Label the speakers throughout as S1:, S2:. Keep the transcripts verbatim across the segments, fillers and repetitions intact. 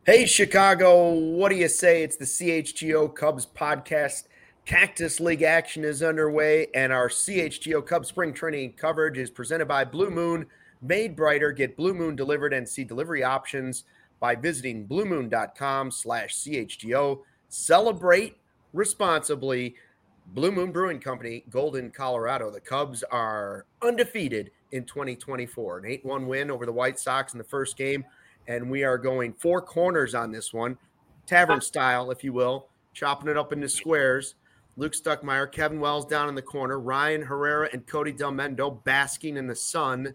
S1: Hey, Chicago, what do you say? It's the C H G O Cubs podcast. Cactus League action is underway, and our C H G O Cubs spring training coverage is presented by Blue Moon. Made brighter. Get Blue Moon delivered and see delivery options by visiting bluemoon.com slash CHGO. Celebrate responsibly. Blue Moon Brewing Company, Golden, Colorado. The Cubs are undefeated in twenty twenty-four. An eight one win over the White Sox in the first game. And we are going four corners on this one, tavern style, if you will, chopping it up into squares. Luke Stuckmeyer, Kevin Wells down in the corner, Ryan Herrera and Cody Del Mendo basking in the sun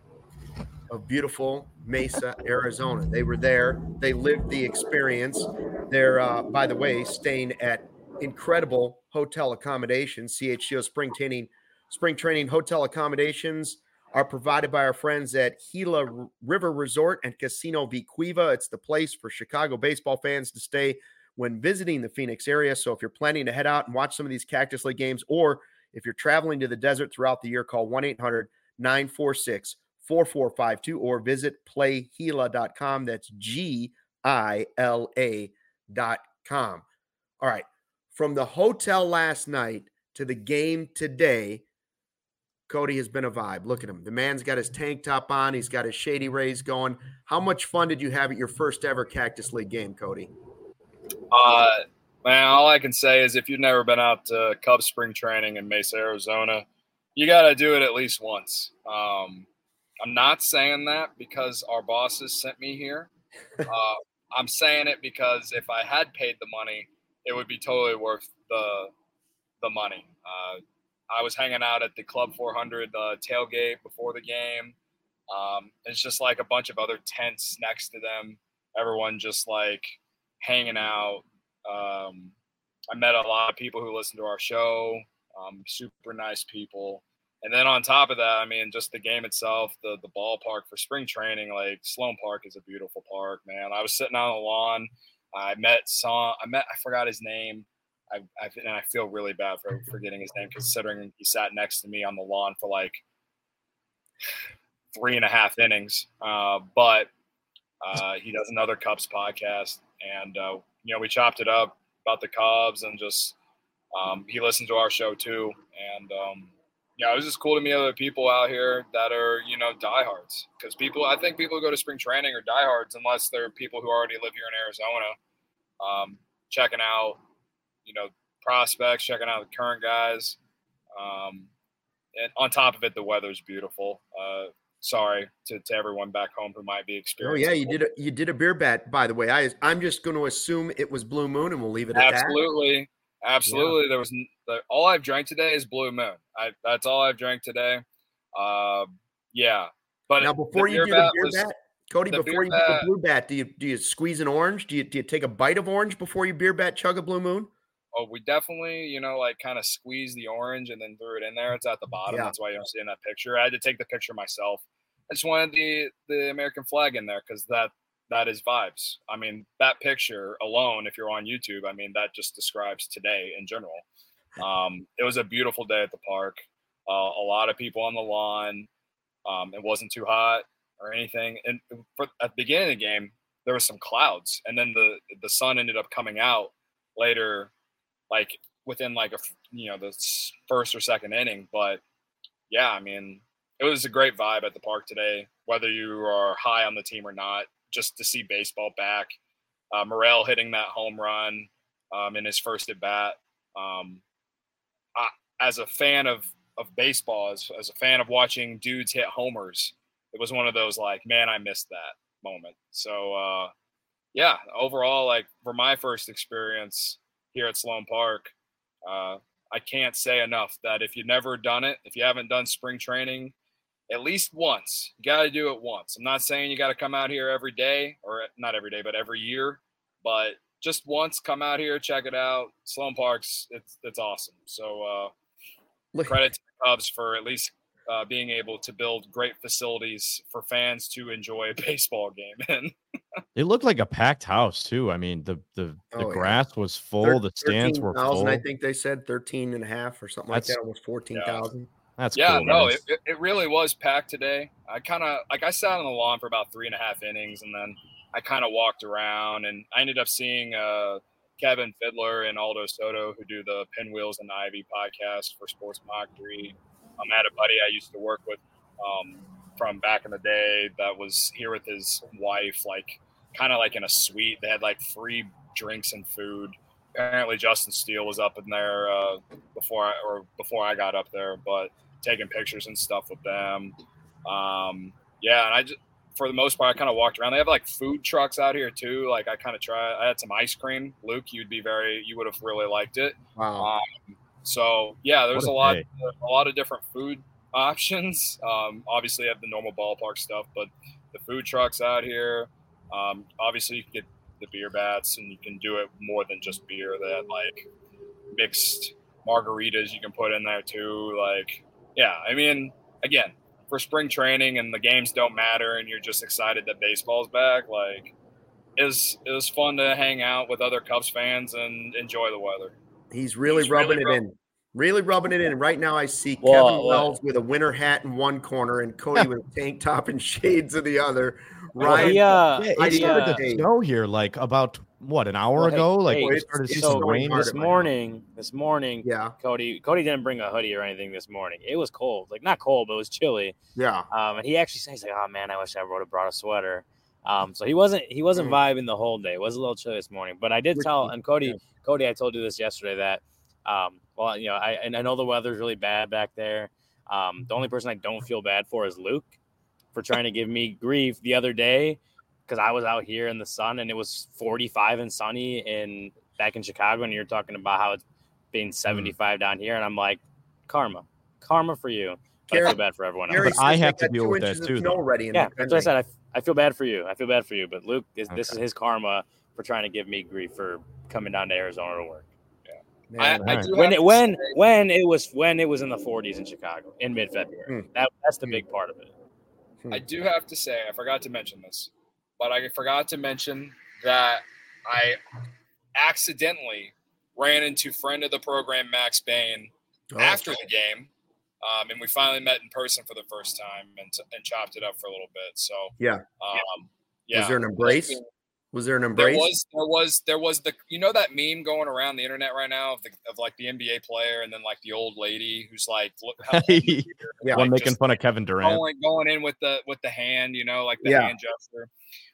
S1: of beautiful Mesa, Arizona. They were there. They lived the experience. They're, uh, by the way, staying at incredible hotel accommodations. C H G O spring training, spring training hotel accommodations are provided by our friends at Gila River Resort and Casino Vicuiva. It's the place for Chicago baseball fans to stay when visiting the Phoenix area. So if you're planning to head out and watch some of these Cactus League games, or if you're traveling to the desert throughout the year, call one eight hundred nine four six four four five two or visit play gila dot com. That's G I L A dot com. All right. From the hotel last night to the game today, Cody has been a vibe. Look at him. The man's got his tank top on. He's got his Shady Rays going. How much fun did you have at your first ever Cactus League game, Cody?
S2: Uh, man, all I can say is if you've never been out to Cubs spring training in Mesa, Arizona, you got to do it at least once. Um, I'm not saying that because our bosses sent me here. Uh, I'm saying it because if I had paid the money, it would be totally worth the the money. Uh, I was hanging out at the Club four hundred uh, tailgate before the game. Um, it's just like a bunch of other tents next to them. Everyone just like hanging out. Um, I met a lot of people who listen to our show, um, super nice people. And then on top of that, I mean, just the game itself, the the ballpark for spring training, like Sloan Park is a beautiful park, man. I was sitting on the lawn. I met some, I met, I forgot his name. I, I, and I feel really bad for forgetting his name, considering he sat next to me on the lawn for like three and a half innings. Uh, but uh, he does another Cubs podcast, and uh, you know, we chopped it up about the Cubs, and just um, he listened to our show too. And um, yeah, it was just cool to meet other people out here that are, you know, diehards. Because people, I think people who go to spring training are diehards unless they're people who already live here in Arizona, um, checking out, you know, prospects, checking out the current guys. Um, and on top of it, the weather's beautiful. Uh, sorry to, to everyone back home who might be experiencing.
S1: Oh yeah, you did a, you did a beer bat, by the way. I I'm just going to assume it was Blue Moon, and we'll leave it at
S2: Absolutely.
S1: that.
S2: Absolutely. Yeah. There was the, all I've drank today is Blue Moon. I that's all I've drank today. Uh, yeah. But
S1: now before you do the beer
S2: was,
S1: bat, Cody, before you bat, do the blue bat, do you do you squeeze an orange? Do you do you take a bite of orange before you beer bat chug a Blue Moon?
S2: Oh, we definitely, you know, like kind of squeezed the orange and then threw it in there. It's at the bottom. Yeah. That's why you don't see it in that picture. I had to take the picture myself. I just wanted the the American flag in there because that that is vibes. I mean, that picture alone, if you're on YouTube, I mean, that just describes today in general. Um, it was a beautiful day at the park. Uh, a lot of people on the lawn. Um, it wasn't too hot or anything. And for, at the beginning of the game, there was some clouds, and then the the sun ended up coming out later, like within like a you know the first or second inning. But yeah, I mean, it was a great vibe at the park today, whether you are high on the team or not. Just to see baseball back. Uh, Morel hitting that home run um, in his first at bat. Um, I, as a fan of of baseball, as, as a fan of watching dudes hit homers, it was one of those like, man, I missed that moment. So uh, yeah, overall, like for my first experience here at Sloan Park, uh, I can't say enough that if you've never done it, if you haven't done spring training, at least once. You got to do it once. I'm not saying you got to come out here every day, or not every day, but every year. But just once, come out here, check it out. Sloan Park's, it's it's awesome. So uh, credit to the Cubs for at least uh, being able to build great facilities for fans to enjoy a baseball game in.
S3: It looked like a packed house too. I mean, the the, the oh, grass yeah. was full. Thir- the stands were full.
S1: I think they said thirteen and a half or something That's, like that. Almost fourteen thousand.
S3: Yeah. That's
S2: yeah,
S3: cool,
S2: no, it, it really was packed today. I kind of like I sat on the lawn for about three and a half innings, and then I kind of walked around, and I ended up seeing uh, Kevin Fiddler and Aldo Soto, who do the Pinwheels and Ivy podcast for Sports Mockery. Um, I had a buddy I used to work with um, from back in the day that was here with his wife, like kind of like in a suite. They had like free drinks and food. Apparently, Justin Steele was up in there uh, before I, or before I got up there, but taking pictures and stuff with them. Um, yeah, and I just, for the most part, I kind of walked around. They have like food trucks out here too. Like I kind of tried. I had some ice cream. Luke, you'd be very, you would have really liked it.
S1: Wow.
S2: Um, so yeah, there's
S3: a
S2: a lot,
S3: day.
S2: a lot of different food options. Um, obviously, you have the normal ballpark stuff, but the food trucks out here. Um, obviously, you can get the beer bats, and you can do it more than just beer. They had like mixed margaritas you can put in there too. Like, yeah, I mean, again, for spring training and the games don't matter, and you're just excited that baseball's back. Like, it was it was fun to hang out with other Cubs fans and enjoy the weather.
S1: He's really He's rubbing really it rubbing. in. Really rubbing it in. Right now I see
S4: well,
S1: Kevin
S4: well,
S1: Wells with a winter hat in one corner and Cody with a tank top and shades in the other. Ryan,
S4: well,
S3: yeah, it started to snow here like about what an hour
S4: well,
S3: ago.
S4: Hey,
S3: like
S4: hey,
S3: it started to
S4: so
S3: rain
S4: this morning. This morning,
S1: yeah.
S4: Cody Cody didn't bring a hoodie or anything this morning. It was cold, like not cold, but it was chilly.
S1: Yeah.
S4: Um, and he actually said, he's like, "Oh man, I wish I would have brought a sweater." Um, so he wasn't he wasn't mm. vibing the whole day. It was a little chilly this morning, but I did tell and Cody yeah. Cody, I told you this yesterday that. Um, well, you know, I and I know the weather's really bad back there. Um, the only person I don't feel bad for is Luke for trying to give me grief the other day because I was out here in the sun and it was forty-five and sunny in back in Chicago, and you're talking about how it's been seventy-five mm. down here, and I'm like, karma, karma for you. But Gary, I feel bad for everyone else.
S3: But I have to deal with that too.
S4: Already yeah, that's what I said. I, I feel bad for you. I feel bad for you. But Luke, is, okay. this is his karma for trying to give me grief for coming down to Arizona to work.
S2: Man, I, I do
S4: when it when say, when it was when it was in the forties in Chicago in mid-February. Hmm. That that's the big part of it.
S2: I do have to say, I forgot to mention this, but I forgot to mention that I accidentally ran into friend of the program Max Bain oh. after the game, um, and we finally met in person for the first time and and chopped it up for a little bit. So
S1: yeah,
S2: um, yeah.
S1: Was there an embrace? Was there an embrace?
S2: There was, there was, there was the, you know, that meme going around the internet right now of the, of like the N B A player and then like the old lady who's like, look, how
S3: yeah, like making fun of Kevin Durant,
S2: going, going in with the, with the hand, you know, like the yeah. hand gesture.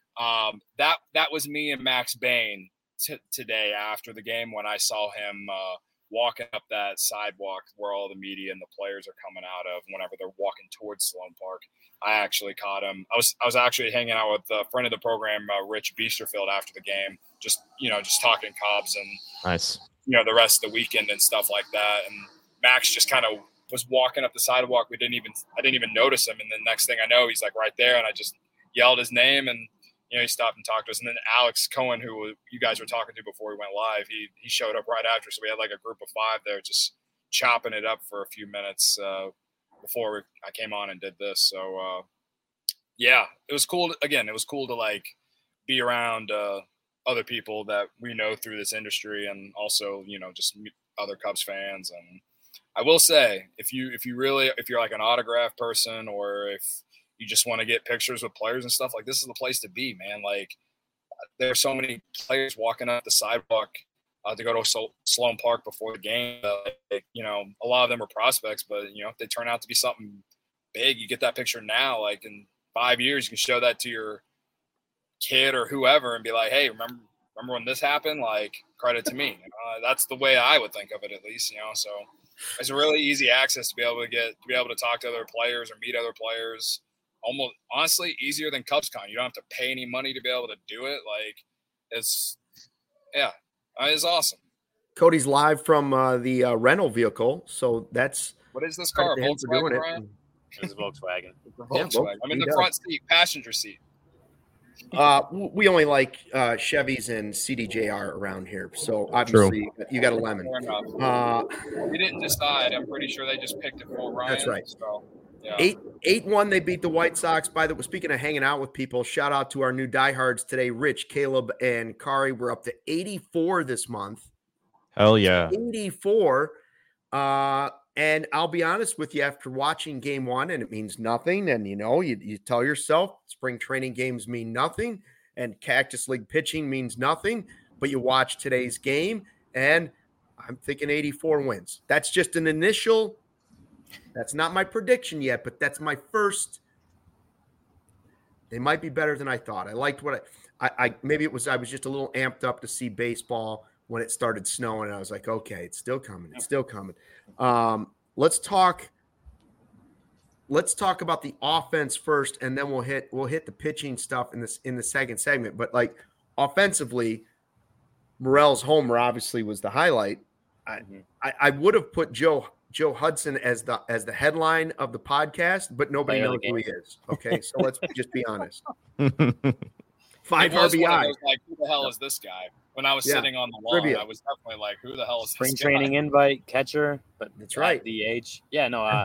S2: Um, that, that was me and Max Bain t- today after the game when I saw him uh, walking up that sidewalk where all the media and the players are coming out of whenever they're walking towards Sloan Park. I actually caught him. I was I was actually hanging out with a friend of the program, uh, Rich Biesterfield, after the game, just you know, just talking Cubs and
S3: nice,
S2: you know, the rest of the weekend and stuff like that. And Max just kind of was walking up the sidewalk. We didn't even I didn't even notice him. And then next thing I know, he's like right there, and I just yelled his name, and you know, he stopped and talked to us. And then Alex Cohen, who you guys were talking to before we went live, he he showed up right after. So we had like a group of five there, just chopping it up for a few minutes. Uh, before I came on and did this. So, uh, yeah, it was cool. To, again, it was cool to like be around uh, other people that we know through this industry and also, you know, just other Cubs fans. And I will say, if you, if you really, if you're like an autograph person or if you just want to get pictures with players and stuff, like this is the place to be, man. Like there are so many players walking up the sidewalk Uh, to go to Sol- Sloan Park before the game. Uh, like, you know, a lot of them are prospects, but, you know, if they turn out to be something big, you get that picture now. Like in five years, you can show that to your kid or whoever and be like, hey, remember remember when this happened? Like, credit to me. Uh, that's the way I would think of it, at least, you know. So it's a really easy access to be able to get to be able to talk to other players or meet other players. Almost, honestly, easier than CubsCon. You don't have to pay any money to be able to do it. Like, it's, yeah. Uh, it's awesome.
S1: Cody's live from uh, the uh, rental vehicle, so that's
S2: what is this car? Volkswagen,
S4: Ryan? It. It's a Volkswagen.
S2: It's a Volkswagen. Yeah, I'm in the does. front seat, passenger seat.
S1: Uh, we only like uh, Chevys and C D J R around here, so obviously True. you got a lemon.
S2: Uh, we didn't decide. I'm pretty sure they just picked it for Ryan.
S1: That's right.
S2: So, yeah.
S1: Eight eight one. They beat the White Sox. By the way, speaking of hanging out with people, shout out to our new diehards today, Rich, Caleb, and Kari. We're up to eighty-four this month.
S3: Hell yeah,
S1: eighty-four. Uh, and I'll be honest with you, after watching game one, and it means nothing, and you know, you, you tell yourself spring training games mean nothing, and Cactus League pitching means nothing, but you watch today's game, and I'm thinking eighty-four wins. That's just an initial – that's not my prediction yet, but that's my first – they might be better than I thought. I liked what I, I, I – maybe it was I was just a little amped up to see baseball when it started snowing, and I was like, okay, it's still coming. It's still coming. Um, let's talk – let's talk about the offense first, and then we'll hit we'll hit the pitching stuff in this in the second segment. But like offensively, Morel's homer obviously was the highlight. I, I, I would have put Joe Joe Hudson as the as the headline of the podcast, but nobody knows who he is. Okay, so let's just be honest. Five R B I.
S2: Like, who the hell is this guy? When I was yeah. sitting on the lawn, Trivia. I was definitely like, who the hell is
S4: Spring
S2: this
S4: training
S2: guy?
S4: invite catcher, but
S1: that's right.
S4: D H. Yeah, no. Uh,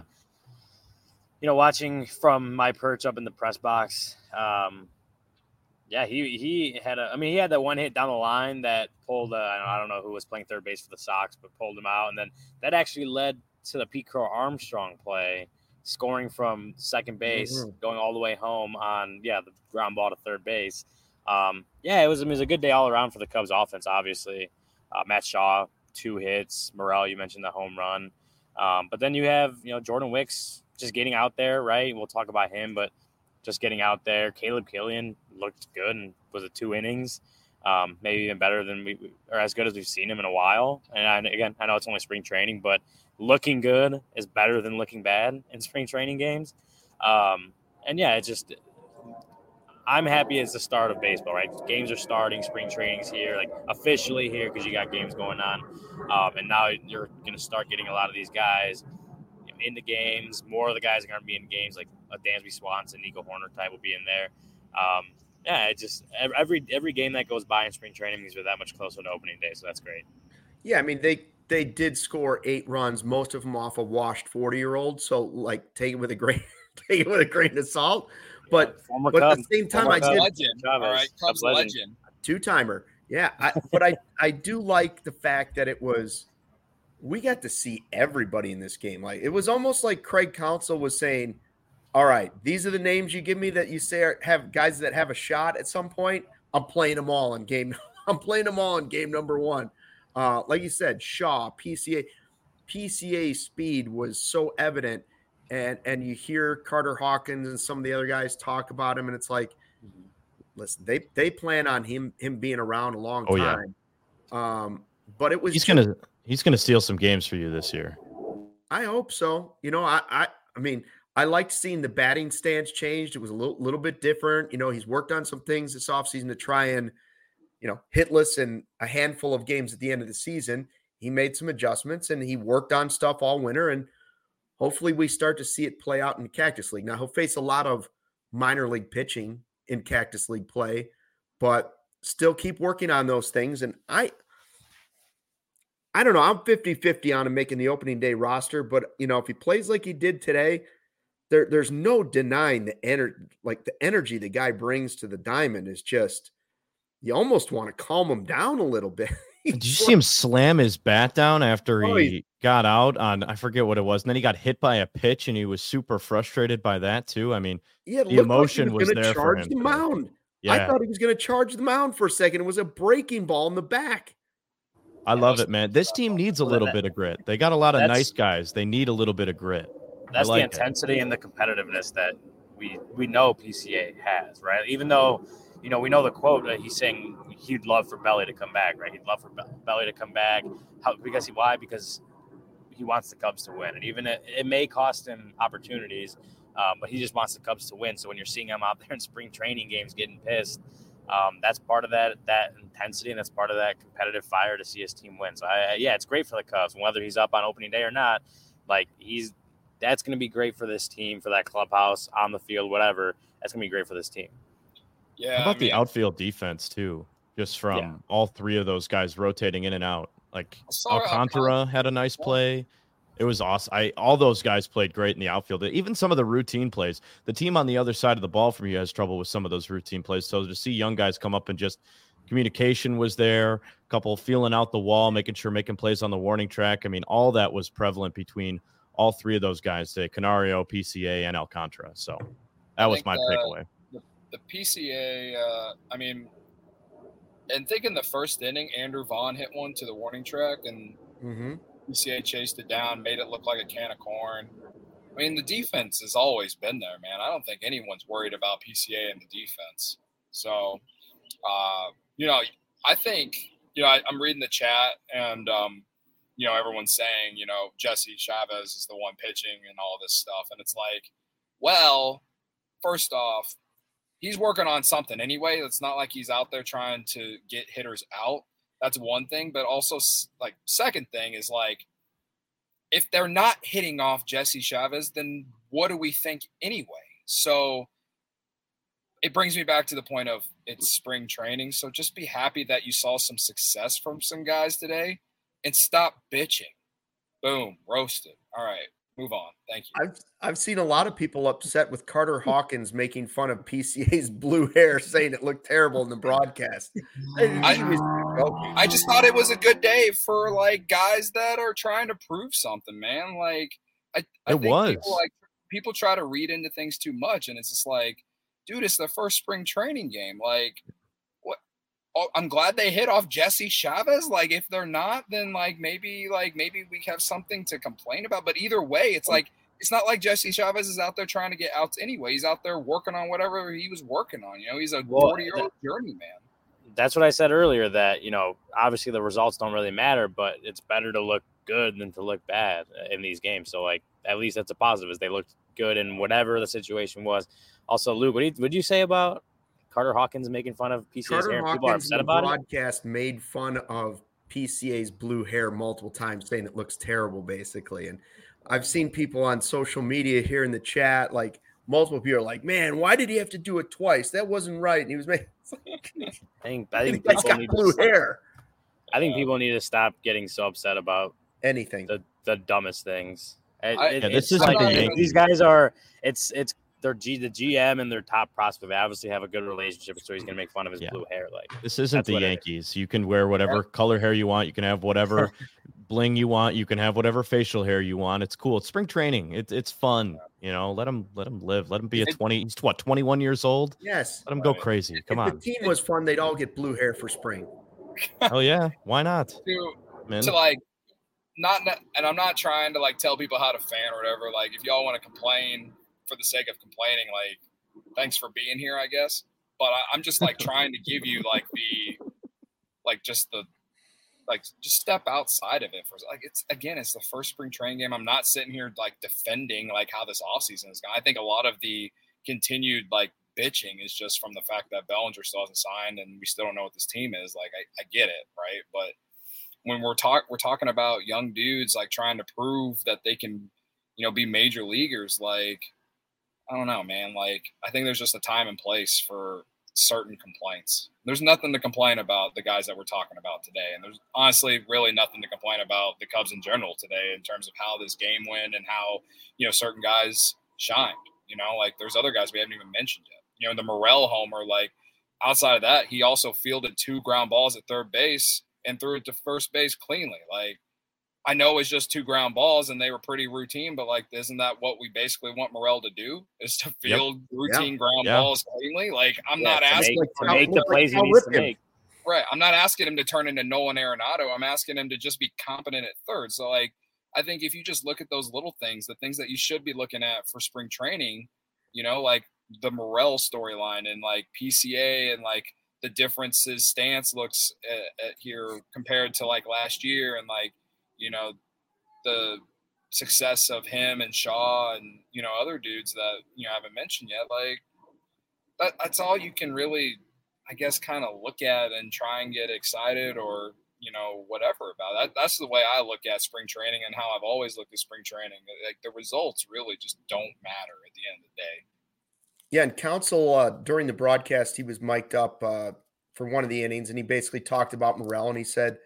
S4: you know, watching from my perch up in the press box. Um, Yeah, he he had a. I mean, he had that one hit down the line that pulled. Uh, I don't know who was playing third base for the Sox, but pulled him out, and then that actually led to the Pete Crow Armstrong play, scoring from second base, mm-hmm. going all the way home on yeah the ground ball to third base. Um, yeah, it was, it was a good day all around for the Cubs offense. Obviously, uh, Matt Shaw two hits, Morel you mentioned the home run, um, but then you have you know Jordan Wicks just getting out there, right? We'll talk about him, but. Just getting out there. Caleb Killian looked good and was it two innings, um, maybe even better than we or as good as we've seen him in a while. And I, again, I know it's only spring training, but looking good is better than looking bad in spring training games. Um, and yeah, it's just I'm happy it's the start of baseball, right? Games are starting, spring training's here, like officially here because you got games going on, um, and now you're going to start getting a lot of these guys in the games. More of the guys are going to be in games, like a Dansby Swanson, Nico Horner type will be in there. Um, yeah, it just every every game that goes by in spring training means we're that much closer to opening day, so that's great.
S1: Yeah, I mean they they did score eight runs, most of them off a washed forty-year-old. So like take it with a grain take it with a grain of salt. But
S4: yeah,
S1: but at the same time,
S2: Former
S1: I did
S2: legend. All right, Cubs legend, legend.
S1: two timer. Yeah, I, but I I do like the fact that it was. We got to see everybody in this game. Like it was almost like Craig Counsell was saying, all right, these are the names you give me that you say are, have guys that have a shot at some point. I'm playing them all in game. I'm playing them all in game number one. Uh, like you said, Shaw, P C A, P C A speed was so evident. And, and you hear Carter Hawkins and some of the other guys talk about him. And it's like, listen, they, they plan on him, him being around a long
S3: oh,
S1: time. Yeah. Um, but it was,
S3: he's going to, He's going to steal some games for you this year.
S1: I hope so. You know, I, I, I mean, I liked seeing the batting stance changed. It was a little, little bit different. You know, he's worked on some things this offseason to try and, you know, hitless in a handful of games at the end of the season. He made some adjustments and he worked on stuff all winter. And hopefully we start to see it play out in the Cactus League. Now he'll face a lot of minor league pitching in Cactus League play, but still keep working on those things. And I, I don't know. I'm fifty-fifty on him making the opening day roster, but you know, if he plays like he did today, there, there's no denying the energy, like the energy the guy brings to the diamond is just, you almost want to calm him down a little bit.
S3: Did you see him slam his bat down after oh, he got out on, I forget what it was. And then he got hit by a pitch and he was super frustrated by that too. I mean,
S1: yeah,
S3: the emotion
S1: like was,
S3: was there
S1: charge
S3: for him.
S1: The mound.
S3: Yeah.
S1: I thought he was going to charge the mound for a second. It was a breaking ball in the back.
S3: I love it, man. This team needs a little bit of grit. They got a lot of that's, nice guys. They need a little bit of grit.
S4: That's
S3: like
S4: the intensity it. and the competitiveness that we we know P C A has, right? Even though, you know, we know the quote that he's saying he'd love for Belly to come back, right? He'd love for Belly to come back. How, because he why? Because he wants the Cubs to win. And even it, it may cost him opportunities, um, but he just wants the Cubs to win. So when you're seeing him out there in spring training games getting pissed, Um, that's part of that that intensity, and that's part of that competitive fire to see his team win. So, I, yeah, it's great for the Cubs. And whether he's up on opening day or not, like he's that's going to be great for this team, for that clubhouse, on the field, whatever. That's going to be great for this team.
S2: Yeah.
S3: How about
S2: I mean,
S3: the outfield defense too? Just from yeah. all three of those guys rotating in and out. Like Alcantara had a nice play. It was awesome. I all those guys played great in the outfield. Even some of the routine plays. The team on the other side of the ball from you has trouble with some of those routine plays. So to see young guys come up and just communication was there, a couple feeling out the wall, making sure making plays on the warning track. I mean, all that was prevalent between all three of those guys today: Canario, P C A, and Alcantara. So that was my
S2: uh,
S3: takeaway.
S2: The, the P C A, uh, I mean, and think in the first inning, Andrew Vaughn hit one to the warning track, and
S1: mm-hmm.
S2: P C A chased it down, made it look like a can of corn. I mean, the defense has always been there, man. I don't think anyone's worried about P C A and the defense. So, uh, you know, I think, you know, I, I'm reading the chat, and, um, you know, everyone's saying, you know, Jesse Chavez is the one pitching and all this stuff. And it's like, well, first off, he's working on something anyway. It's not like he's out there trying to get hitters out. That's one thing. But also, like, second thing is, like, if they're not hitting off Jesse Chavez, then what do we think anyway? So it brings me back to the point of it's spring training. So just be happy that you saw some success from some guys today and stop bitching. Boom, roasted. All right. Move on. Thank you.
S1: I've I've seen a lot of people upset with Carter Hawkins making fun of P C A's blue hair, saying it looked terrible in the broadcast.
S2: I, I just thought it was a good day for like guys that are trying to prove something, man. Like I, I
S3: it
S2: think
S3: was
S2: people, like people try to read into things too much, and it's just like, dude, it's the first spring training game. Like, what? Oh, I'm glad they hit off Jesse Chavez. Like, if they're not, then like maybe like maybe we have something to complain about. But either way, it's like it's not like Jesse Chavez is out there trying to get outs anyway. He's out there working on whatever he was working on. You know, he's a forty-year-old journeyman.
S4: That's what I said earlier, that, you know, obviously the results don't really matter, but it's better to look good than to look bad in these games. So, like, at least that's a positive, is they looked good in whatever the situation was. Also, Luke, what did you, what did you say about Carter Hawkins making fun of P C A's
S1: Carter
S4: hair?
S1: Hawkins,
S4: people are upset about
S1: the
S4: it?
S1: broadcast made fun of P C A's blue hair multiple times, saying it looks terrible, basically. And I've seen people on social media here in the chat, like, multiple people are like, man, why did he have to do it twice? That wasn't right. And he was making
S4: I think I think
S1: people
S4: people
S1: got
S4: need
S1: blue
S4: to,
S1: hair.
S4: I think people need to stop getting so upset about
S1: Anything.
S4: the, the dumbest things. It,
S2: I,
S4: it,
S3: yeah, this
S4: it's
S3: isn't
S4: like,
S3: the
S4: it-
S3: Yankees.
S4: these guys are it's it's their G the G M and their top prospect. They obviously have a good relationship, so he's gonna make fun of his
S3: Yeah.
S4: blue hair. Like,
S3: This isn't
S4: That's
S3: the
S4: what it
S3: Yankees. You can wear whatever color hair you want. You can have whatever bling you want. You can have whatever facial hair you want. It's cool. It's spring training. It's it's fun. You know, let him let him live. Let him be a twenty. He's what, twenty-one years old?
S1: Yes.
S3: Let him go
S2: Right.
S3: crazy. Come
S1: if
S3: on.
S1: the team was fun, they'd all get blue hair for spring.
S3: Oh yeah, why not?
S2: to,
S3: Man.
S2: to like not and I'm not trying to like tell people how to fan or whatever. Like, if y'all want to complain for the sake of complaining, like, thanks for being here, I guess. But I, I'm just like trying to give you like the like just the like just step outside of it for like it's again it's the first spring training game. I'm not sitting here like defending like how this offseason is going. I think a lot of the continued like bitching is just from the fact that Bellinger still hasn't signed and we still don't know what this team is. Like, I, I get it, right? But when we're talk we're talking about young dudes like trying to prove that they can, you know, be major leaguers, like, I don't know, man. Like, I think there's just a time and place for certain complaints. There's nothing to complain about the guys that we're talking about today. And there's honestly really nothing to complain about the Cubs in general today in terms of how this game went and how, you know, certain guys shined. You know, like, there's other guys we haven't even mentioned yet. You know, the Morel homer, like, outside of that, he also fielded two ground balls at third base and threw it to first base cleanly. Like, I know it's just two ground balls and they were pretty routine, but like, isn't that what we basically want Morel to do? Is to field yep. routine
S1: yeah.
S2: ground
S3: yeah.
S2: balls cleanly? Like, I'm
S4: yeah,
S2: not
S4: to
S2: asking
S4: make,
S2: to
S4: to make the plays he needs to make.
S2: Right. I'm not asking him to turn into Nolan Arenado. I'm asking him to just be competent at third. So, like, I think if you just look at those little things, the things that you should be looking at for spring training, you know, like the Morel storyline and like P C A and like the differences stance looks at, at here compared to like last year and like, you know, the success of him and Shaw and, you know, other dudes that, you know, I haven't mentioned yet. Like, that, that's all you can really, I guess, kind of look at and try and get excited or, you know, whatever about that. That's the way I look at spring training and how I've always looked at spring training. Like, the results really just don't matter at the end of the day.
S1: Yeah, and Counsell, uh, during the broadcast, he was mic'd up uh, for one of the innings, and he basically talked about Morel, and he said,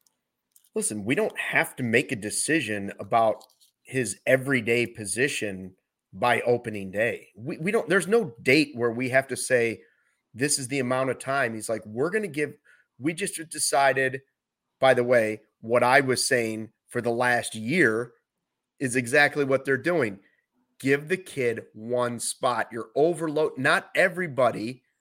S1: listen, we don't have to make a decision about his everyday position by opening day. We, we don't, there's no date where we have to say, this is the amount of time. He's like, we're going to give, we just decided, by the way, what I was saying for the last year is exactly what they're doing. Give the kid one spot. You're overload. Not everybody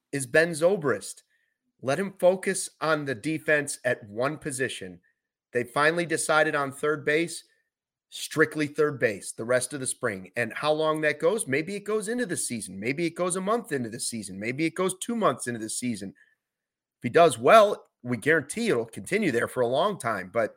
S1: is Ben Zobrist. Let him focus on the defense at one position. They finally decided on third base, strictly third base the rest of the spring. And how long that goes, maybe it goes into the season. Maybe it goes a month into the season. Maybe it goes two months into the season. If he does well, we guarantee it'll continue there for a long time. But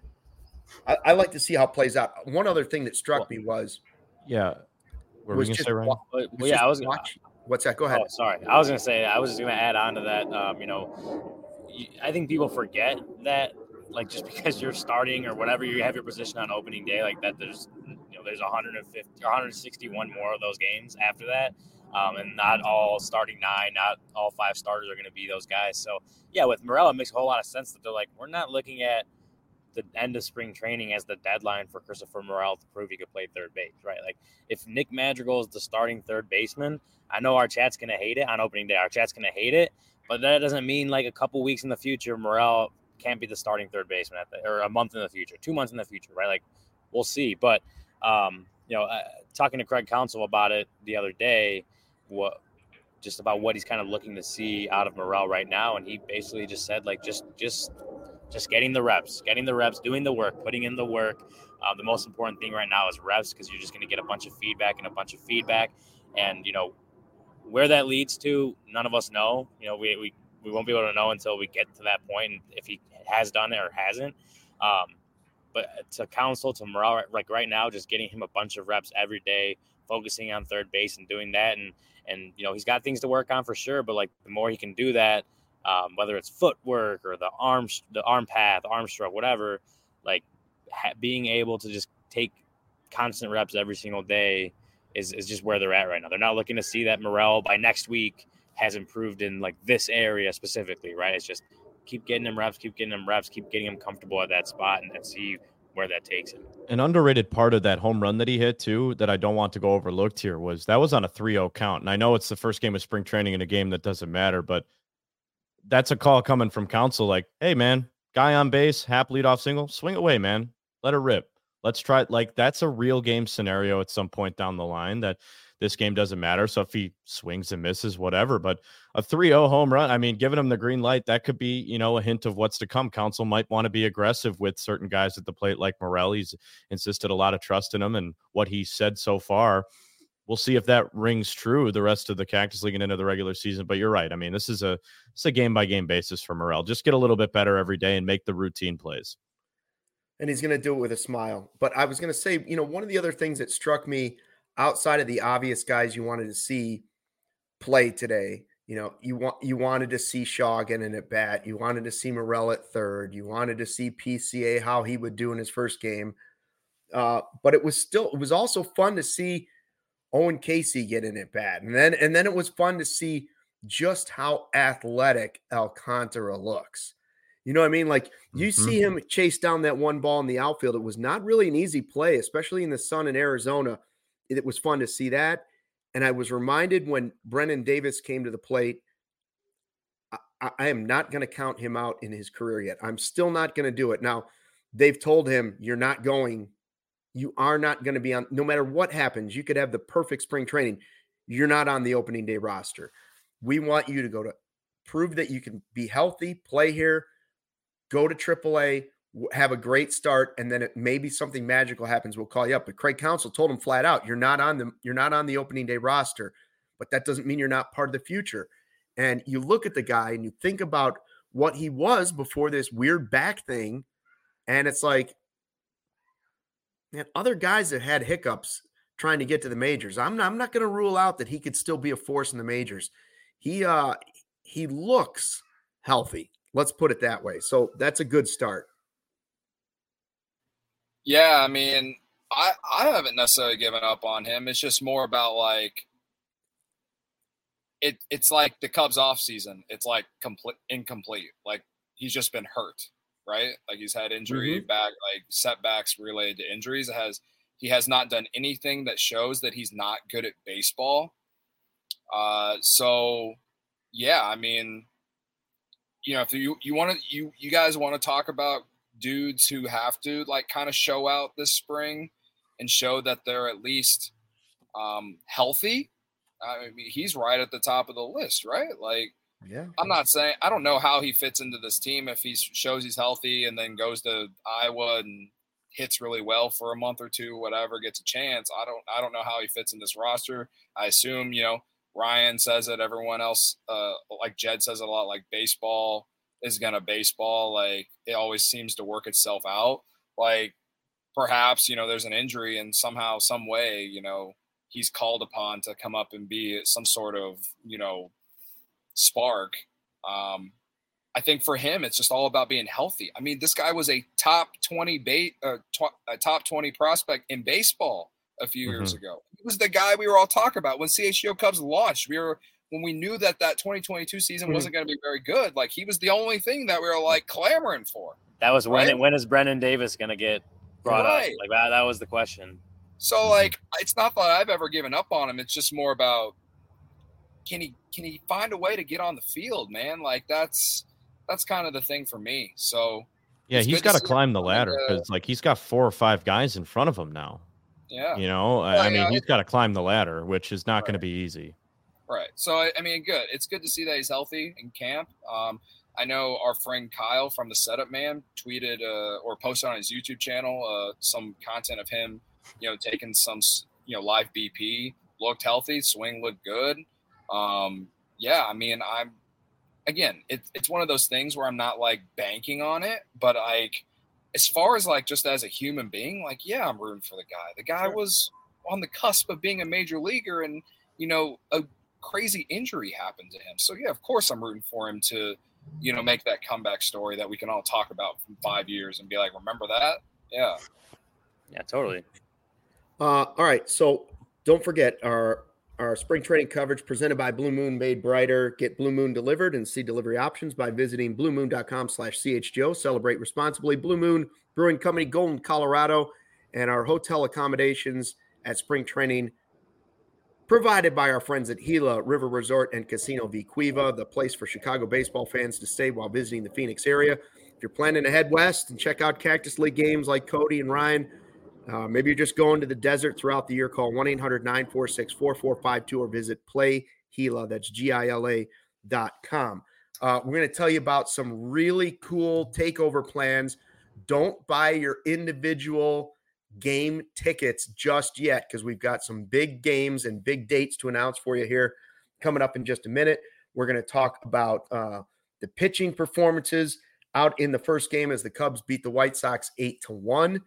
S1: I, I like to see how it plays out. One other thing that struck me was,
S3: yeah,
S1: what was just, say, Ryan?
S4: Well, yeah, I was
S1: watch. What's that? Go ahead.
S4: Oh, sorry, I was gonna say I was just gonna add on to that. Um, you know, I think people forget that, like, just because you're starting or whatever, you have your position on opening day, like that. There's, you know, there's one hundred fifty, one hundred sixty-one more of those games after that, um, and not all starting nine, not all five starters are going to be those guys. So yeah, with Morel, it makes a whole lot of sense that they're like, we're not looking at the end of spring training as the deadline for Christopher Morel to prove he could play third base, right? Like, if Nick Madrigal is the starting third baseman, I know our chat's going to hate it on opening day. Our chat's going to hate it, but that doesn't mean like a couple weeks in the future, Morel can't be the starting third baseman at the, or a month in the future, two months in the future, right? Like, we'll see. But, um, you know, uh, talking to Craig Counsell about it the other day, what, just about what he's kind of looking to see out of Morel right now. And he basically just said, like, just, just, just getting the reps, getting the reps, doing the work, putting in the work. Uh, the most important thing right now is reps, because you're just going to get a bunch of feedback and a bunch of feedback. And, you know, where that leads to, none of us know. You know, we, we, we won't be able to know until we get to that point, and if he has done it or hasn't. Um, but to Counsell, to Morel, like right now, just getting him a bunch of reps every day, focusing on third base and doing that. And, and, you know, he's got things to work on for sure, but like the more he can do that, um, whether it's footwork or the arm, the arm path, arm stroke, whatever, like ha- being able to just take constant reps every single day is, is just where they're at right now. They're not looking to see that Morel by next week has improved in like this area specifically, right? It's just keep getting him reps, keep getting him reps, keep getting him comfortable at that spot, and, and see where that takes him.
S3: An underrated part of that home run that he hit too, that I don't want to go overlooked here, was that was on a three oh count. And I know it's the first game of spring training in a game that doesn't matter, but that's a call coming from Counsell. Like, hey man, guy on base, Hap leadoff single, swing away, man. Let it rip. Let's try it. Like, that's a real game scenario at some point down the line that this game doesn't matter. So if he swings and misses, whatever, but a three oh home run, I mean, giving him the green light, that could be, you know, a hint of what's to come. Counsell might want to be aggressive with certain guys at the plate, like Morel. He's insisted a lot of trust in him, and what he said so far, we'll see if that rings true the rest of the Cactus League and into the regular season. But you're right. I mean, this is a, it's a game by game basis for Morel. Just get a little bit better every day and make the routine plays.
S1: And he's going to do it with a smile. But I was going to say, you know, one of the other things that struck me outside of the obvious guys you wanted to see play today, you know, you want you wanted to see Shaw get in at bat. You wanted to see Morel at third. You wanted to see P C A, how he would do in his first game. Uh, but it was still, it was also fun to see Owen Casey get in at bat. And then, and then it was fun to see just how athletic Alcantara looks. You know what I mean? Like, you mm-hmm. see him chase down that one ball in the outfield. It was not really an easy play, especially in the sun in Arizona. It was fun to see that. And I was reminded when Brennan Davis came to the plate, I, I am not going to count him out in his career yet. I'm still not going to do it. Now, they've told him, you're not going, you are not going to be on, no matter what happens, you could have the perfect spring training. You're not on the opening day roster. We want you to go to prove that you can be healthy, play here, go to triple A, have a great start, and then it, maybe something magical happens. We'll call you up. But Craig Counsell told him flat out, "You're not on the you're not on the opening day roster, but that doesn't mean you're not part of the future." And you look at the guy and you think about what he was before this weird back thing, and it's like, man, other guys have had hiccups trying to get to the majors. I'm not, I'm not going to rule out that he could still be a force in the majors. He uh he looks healthy. Let's put it that way. So that's a good start.
S2: Yeah, I mean, I, I haven't necessarily given up on him. It's just more about like it. It's like the Cubs off season. It's like complete incomplete. Like he's just been hurt, right? Like he's had injury mm-hmm. back, like setbacks related to injuries. It has he has not done anything that shows that he's not good at baseball. Uh, so yeah, I mean, you know, if you you want to you you guys want to talk about dudes who have to like kind of show out this spring and show that they're at least um, healthy, I mean, he's right at the top of the list, right? Like,
S1: yeah,
S2: I'm not saying I don't know how he fits into this team if he shows he's healthy and then goes to Iowa and hits really well for a month or two, whatever, gets a chance. I don't I don't know how he fits in this roster. I assume, you know, Ryan says it, everyone else, uh, like Jed says it a lot, like baseball is gonna baseball. Like it always seems to work itself out. Like perhaps, you know, there's an injury and somehow, some way, you know, he's called upon to come up and be some sort of, you know, spark. Um, I think for him, it's just all about being healthy. I mean, this guy was a top twenty bait, uh, tw- a top twenty prospect in baseball a few mm-hmm. years ago. He was the guy we were all talking about when C H G O Cubs launched. We were when we knew that that twenty twenty-two season mm-hmm. wasn't going to be very good. Like he was the only thing that we were like clamoring for.
S4: That was right? when. When is Brennan Davis going to get brought right. up? Like that. That was the question.
S2: So like, it's not that I've ever given up on him. It's just more about can he can he find a way to get on the field, man? Like that's. That's kind of the thing for me. So
S3: yeah, he's got to climb the ladder because like he's got four or five guys in front of him now.
S2: Yeah,
S3: you know, well, I mean, yeah, he's got to climb the ladder, which is not right. going to be easy.
S2: Right. So I mean, good. It's good to see that he's healthy in camp. Um, I know our friend Kyle from the Setup Man tweeted uh, or posted on his YouTube channel uh, some content of him, you know, taking some you know live B P. Looked healthy. Swing looked good. Um, yeah, I mean, I'm. Again, it, it's one of those things where I'm not like banking on it, but like as far as like just as a human being, like, yeah, I'm rooting for the guy. The guy sure. was on the cusp of being a major leaguer and, you know, a crazy injury happened to him. So, yeah, of course I'm rooting for him to, you know, make that comeback story that we can all talk about from five years and be like, remember that? Yeah.
S4: Yeah, totally.
S1: Uh, all right. So don't forget our Our spring training coverage presented by Blue Moon made brighter. Get Blue Moon delivered and see delivery options by visiting bluemoon.com slash CHGO. Celebrate responsibly. Blue Moon Brewing Company, Golden, Colorado, and our hotel accommodations at spring training provided by our friends at Gila River Resort and Casino Vicuiva, the place for Chicago baseball fans to stay while visiting the Phoenix area. If you're planning to head west and check out Cactus League games like Cody and Ryan, Uh, maybe you're just going to the desert throughout the year. Call one eight hundred nine four six four four five two or visit Play Gila. That's G I L A dot com. Uh, we're going to tell you about some really cool takeover plans. Don't buy your individual game tickets just yet because we've got some big games and big dates to announce for you here coming up in just a minute. We're going to talk about uh, the pitching performances out in the first game as the Cubs beat the White Sox eight to one.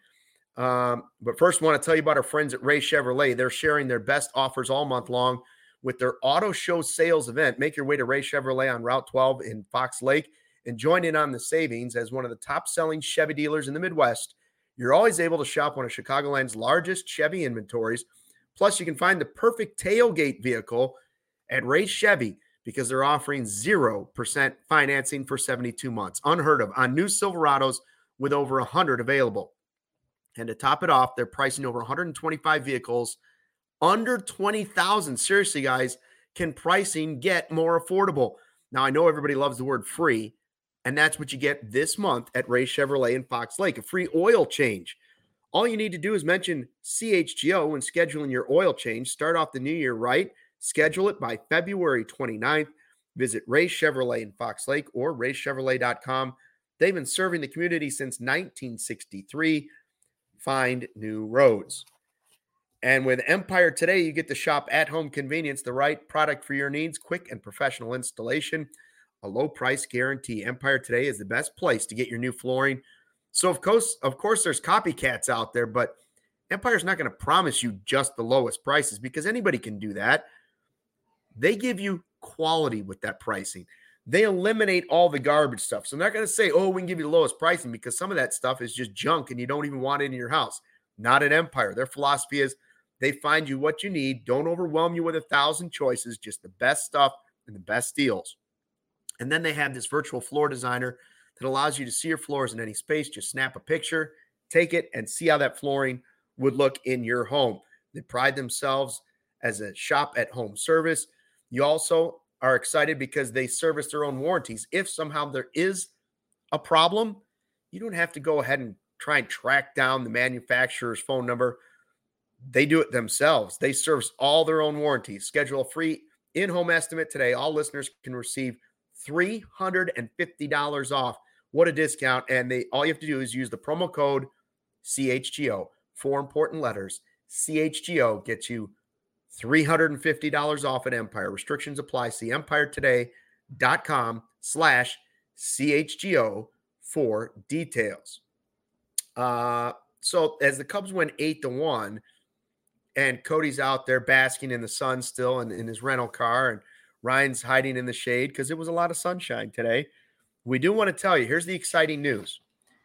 S1: Um, but first, I want to tell you about our friends at Ray Chevrolet. They're sharing their best offers all month long with their auto show sales event. Make your way to Ray Chevrolet on Route twelve in Fox Lake and join in on the savings. As one of the top-selling Chevy dealers in the Midwest, you're always able to shop one of Chicagoland's largest Chevy inventories. Plus, you can find the perfect tailgate vehicle at Ray Chevy because they're offering zero percent financing for seventy-two months. Unheard of on new Silverados with over one hundred available. And to top it off, they're pricing over one hundred twenty-five vehicles under twenty thousand. Seriously, guys, can pricing get more affordable? Now, I know everybody loves the word free, and that's what you get this month at Ray Chevrolet in Fox Lake, a free oil change. All you need to do is mention C H G O when scheduling your oil change. Start off the new year right. Schedule it by February twenty-ninth. Visit Ray Chevrolet in Fox Lake or ray chevrolet dot com. They've been serving the community since nineteen sixty-three. Find new roads. And with Empire Today, you get to shop at home convenience, the right product for your needs, quick and professional installation, a low price guarantee. Empire Today is the best place to get your new flooring. So, of course, of course, there's copycats out there, but Empire's not going to promise you just the lowest prices because anybody can do that. They give you quality with that pricing. They eliminate all the garbage stuff. So they're not going to say, oh, we can give you the lowest pricing because some of that stuff is just junk and you don't even want it in your house. Not at Empire. Their philosophy is they find you what you need. Don't overwhelm you with a thousand choices, just the best stuff and the best deals. And then they have this virtual floor designer that allows you to see your floors in any space. Just snap a picture, take it, and see how that flooring would look in your home. They pride themselves as a shop at home service. You also are excited because they service their own warranties. If somehow there is a problem, you don't have to go ahead and try and track down the manufacturer's phone number. They do it themselves. They service all their own warranties. Schedule a free in-home estimate today. All listeners can receive three hundred fifty dollars off. What a discount. And they all you have to do is use the promo code C H G O. Four important letters. C H G O gets you three hundred fifty dollars off at Empire. Restrictions apply. See empiretoday.com slash CHGO for details. Uh, so as the Cubs win eight to one, and Cody's out there basking in the sun still in, in his rental car, and Ryan's hiding in the shade because it was a lot of sunshine today. We do want to tell you, here's the exciting news.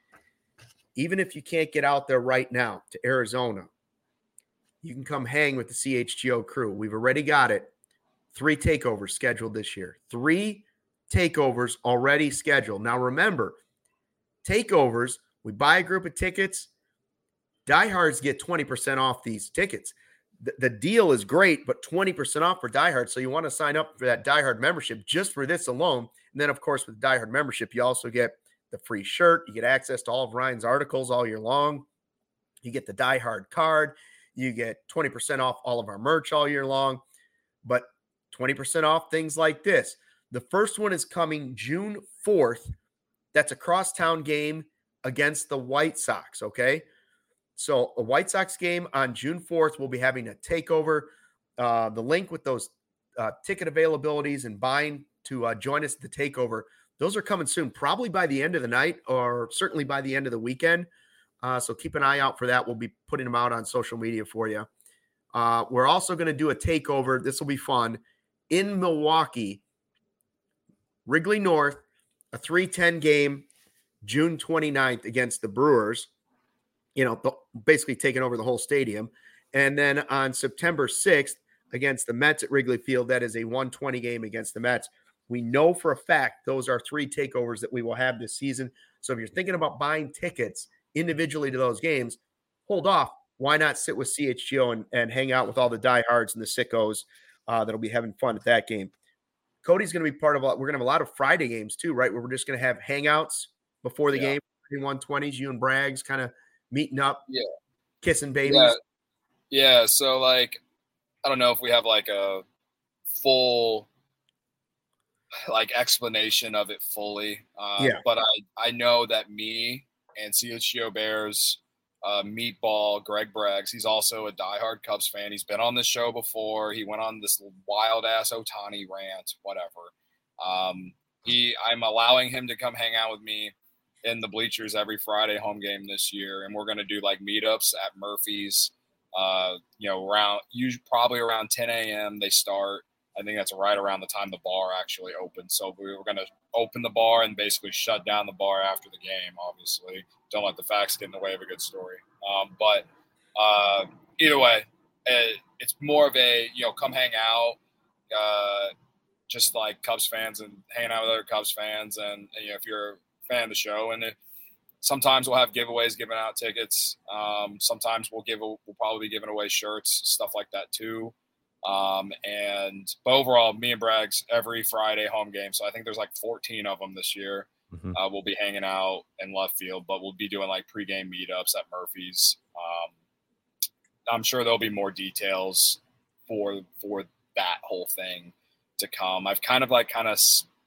S1: Even if you can't get out there right now to Arizona, you can come hang with the C H G O crew. We've already got it. Three takeovers scheduled this year. Three takeovers already scheduled. Now remember, takeovers, we buy a group of tickets. Diehards get twenty percent off these tickets. The, the deal is great, but twenty percent off for Diehard. So you want to sign up for that Diehard membership just for this alone. And then, of course, with the Diehard membership, you also get the free shirt. You get access to all of Ryan's articles all year long. You get the Diehard card. You get twenty percent off all of our merch all year long. But twenty percent off things like this. The first one is coming June fourth. That's a crosstown game against the White Sox, okay? So a White Sox game on June fourth, we'll be having a takeover. Uh, the link with those uh, ticket availabilities and buying to uh, join us at the takeover, those are coming soon, probably by the end of the night or certainly by the end of the weekend. Uh, so keep an eye out for that. We'll be putting them out on social media for you. Uh, we're also going to do a takeover. This will be fun in Milwaukee, Wrigley North, a three ten game, June twenty-ninth against the Brewers. You know, the, basically taking over the whole stadium. And then on September sixth against the Mets at Wrigley Field, that is a one twenty game against the Mets. We know for a fact those are three takeovers that we will have this season. So if you're thinking about buying tickets individually to those games, hold off. Why not sit with C H G O and, and hang out with all the diehards and the sickos uh, that'll be having fun at that game. Cody's going to be part of, a, we're going to have a lot of Friday games too, right? Where we're just going to have hangouts before the yeah. game, one twenties, you and Braggs kind of meeting up,
S2: yeah,
S1: kissing babies.
S2: Yeah. yeah. So like, I don't know if we have like a full like explanation of it fully. Uh,
S1: yeah.
S2: But I, I know that me and C H G O Bears, uh, Meatball, Greg Braggs, he's also a diehard Cubs fan. He's been on this show before. He went on this wild ass Ohtani rant, whatever. Um, he, I'm allowing him to come hang out with me in the bleachers every Friday home game this year. And we're going to do like meetups at Murphy's, uh, you know, around usually probably around ten a.m. they start. I think that's right around the time the bar actually opens. So we were going to open the bar and basically shut down the bar after the game, obviously. Don't let the facts get in the way of a good story. Um, but uh, either way, it, it's more of a, you know, come hang out, uh, just like Cubs fans and hanging out with other Cubs fans. And, and you know, if you're a fan of the show, and it, sometimes we'll have giveaways, giving out tickets. Um, sometimes we'll give, a, we'll probably be giving away shirts, stuff like that too. Um, and but overall, me and Braggs every Friday home game. So I think there's like fourteen of them this year. Mm-hmm. Uh, we'll be hanging out in left field, but we'll be doing like pregame meetups at Murphy's. Um, I'm sure there'll be more details for for that whole thing to come. I've kind of like kind of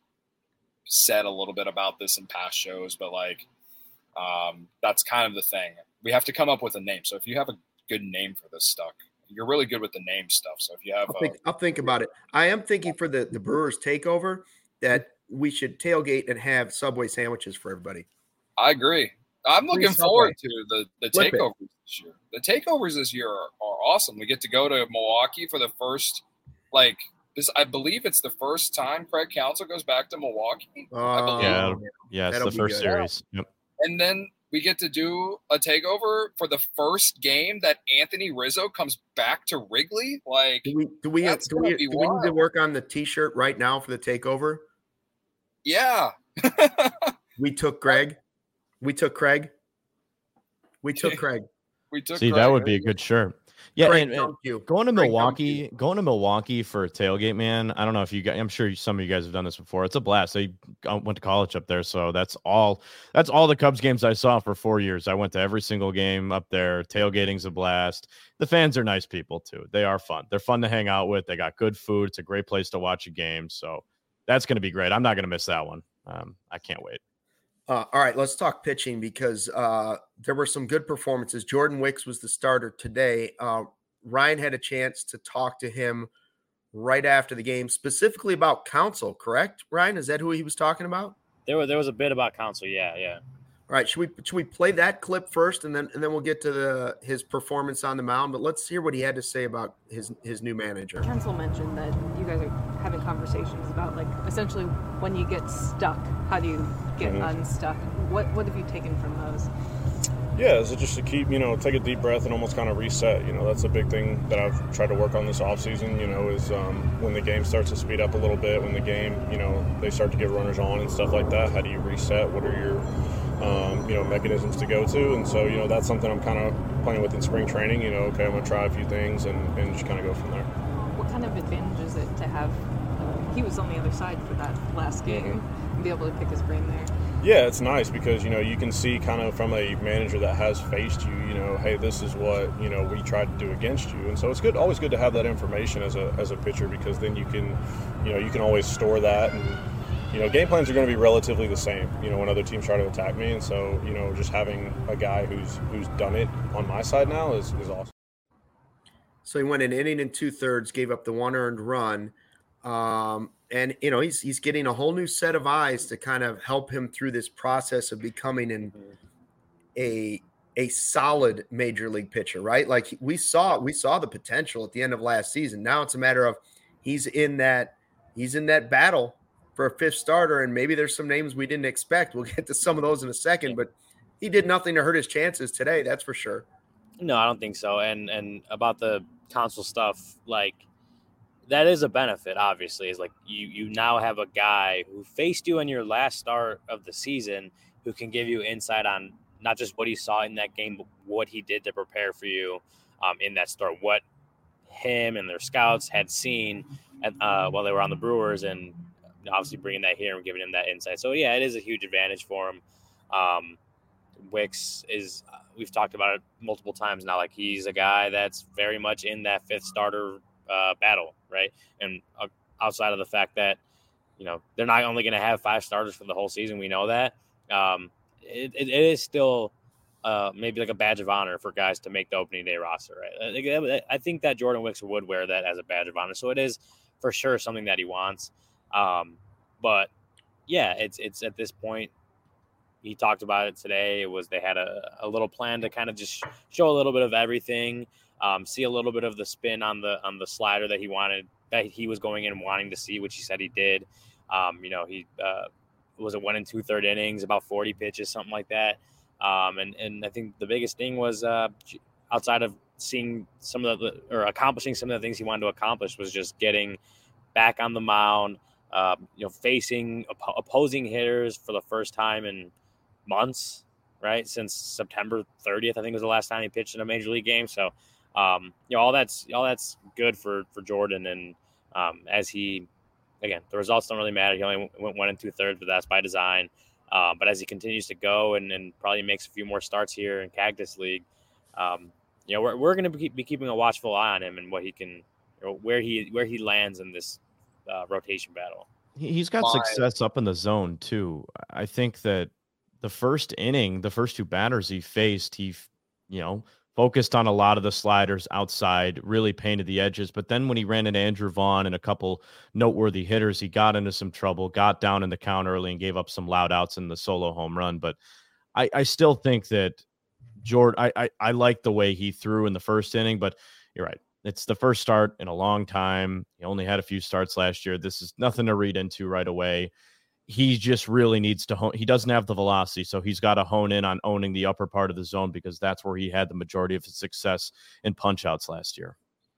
S2: said a little bit about this in past shows, but like um, that's kind of the thing. We have to come up with a name. So if you have a good name for this stuff, you're really good with the name stuff. So if you have,
S1: I'll think, a, I'll think about it. I am thinking for the, the Brewers takeover that we should tailgate and have Subway sandwiches for everybody.
S2: I agree. I'm looking forward to the, the takeovers this year. The takeovers this year are, are awesome. We get to go to Milwaukee for the first, like this. I believe it's the first time Craig Counsell goes back to Milwaukee.
S1: Uh,
S2: I believe.
S3: Yeah, yeah, it's
S1: That'll
S3: the first
S1: good.
S3: series. Yep.
S2: And then we get to do a takeover for the first game that Anthony Rizzo comes back to Wrigley. Like,
S1: do we do we have, do, we, do we need to work on the T-shirt right now for the takeover?
S2: Yeah.
S1: we took Greg. We took Craig. We took Craig.
S2: We took.
S3: See,
S2: Craig.
S3: that would be a good shirt. Yeah, Craig, and, and going to Craig, Milwaukee, going to Milwaukee for a tailgate, man. I don't know if you guys, I'm sure some of you guys have done this before. It's a blast. I went to college up there, so that's all. That's all the Cubs games I saw for four years. I went to every single game up there. Tailgating's a blast. The fans are nice people too. They are fun. They're fun to hang out with. They got good food. It's a great place to watch a game. So that's going to be great. I'm not going to miss that one. Um, I can't wait.
S1: Uh, all right, let's talk pitching because uh, there were some good performances. Jordan Wicks was the starter today. Uh, Ryan had a chance to talk to him right after the game, specifically about Counsell, correct, Ryan? Is that who he was talking about?
S4: There was, there was a bit about Counsell, yeah, yeah.
S1: All right, should we should we play that clip first, and then and then we'll get to the his performance on the mound. But let's hear what he had to say about his his new manager.
S5: Counsell mentioned that you guys are having conversations about, like, essentially when you get stuck, how do you get mm-hmm. unstuck? What what have you taken from those?
S6: Yeah, is it just to keep, you know, take a deep breath and almost kind of reset. You know, that's a big thing that I've tried to work on this offseason, you know, is um, when the game starts to speed up a little bit, when the game, you know, they start to get runners on and stuff like that. How do you reset? What are your Um, you know, mechanisms to go to, and so, you know, that's something I'm kind of playing with in spring training. You know, okay, I'm going to try a few things and, and just kind of go from there.
S5: What kind of advantage is it to have, uh, he was on the other side for that last game, mm-hmm. and be able to pick his brain there?
S6: Yeah, it's nice because, you know, you can see kind of from a manager that has faced you, you know, hey, this is what, you know, we tried to do against you. And so it's good, always good to have that information as a as a pitcher, because then you can, you know, you can always store that. And you know, game plans are going to be relatively the same, you know, when other teams try to attack me. And so, you know, just having a guy who's who's done it on my side now is, is awesome.
S1: So he went an inning and two thirds, gave up the one earned run. Um, and, you know, he's he's getting a whole new set of eyes to kind of help him through this process of becoming an, a a solid major league pitcher, right? Like we saw we saw the potential at the end of last season. Now it's a matter of he's in that he's in that battle for a fifth starter, and maybe there's some names we didn't expect. We'll get to some of those in a second, but he did nothing to hurt his chances today. That's for sure.
S4: No, I don't think so. And, and about the Counsell stuff, like that is a benefit, obviously, is like you, you now have a guy who faced you in your last start of the season who can give you insight on not just what he saw in that game, but what he did to prepare for you um, in that start, what him and their scouts had seen at, uh, while they were on the Brewers, and obviously bringing that here and giving him that insight. So, yeah, it is a huge advantage for him. Um, Wicks is, uh, we've talked about it multiple times now, like he's a guy that's very much in that fifth starter uh, battle, right? And uh, outside of the fact that, you know, they're not only going to have five starters for the whole season, we know that. Um, it, it, it is still uh, maybe like a badge of honor for guys to make the opening day roster, right? I, I think that Jordan Wicks would wear that as a badge of honor. So it is for sure something that he wants. Um, but yeah, it's, it's at this point, he talked about it today. It was, they had a, a little plan to kind of just show a little bit of everything, um, see a little bit of the spin on the, on the slider that he wanted, that he was going in and wanting to see, which he said he did. Um, you know, he, uh, was it one and two third innings, about forty pitches, something like that. Um, and, and I think the biggest thing was, uh, outside of seeing some of the, or accomplishing some of the things he wanted to accomplish, was just getting back on the mound, Uh, you know, facing op- opposing hitters for the first time in months, right? Since September thirtieth, I think was the last time he pitched in a major league game. So, um, you know, all that's all that's good for for Jordan. And um, as he, again, the results don't really matter. He only went one and two thirds, but that's by design. Uh, but as he continues to go and, and probably makes a few more starts here in Cactus League, um, you know, we're we're going to be, be keeping a watchful eye on him and what he can, you know, where he where he lands in this Uh, rotation battle.
S3: He's got Fine. success up in the zone too. I think that the first inning, the first two batters he faced, he, you know, focused on a lot of the sliders outside, really painted the edges. But then when he ran into Andrew Vaughn and a couple noteworthy hitters, he got into some trouble, got down in the count early and gave up some loud outs in the solo home run. But I, I still think that Jordan, I, I, I like the way he threw in the first inning, but you're right. It's the first start in a long time. He only had a few starts last year. This is nothing to read into right away. He just really needs to hone. He doesn't have the velocity, so he's got to hone in on owning the upper part of the zone, because that's where he had the majority of his success in punch-outs last year.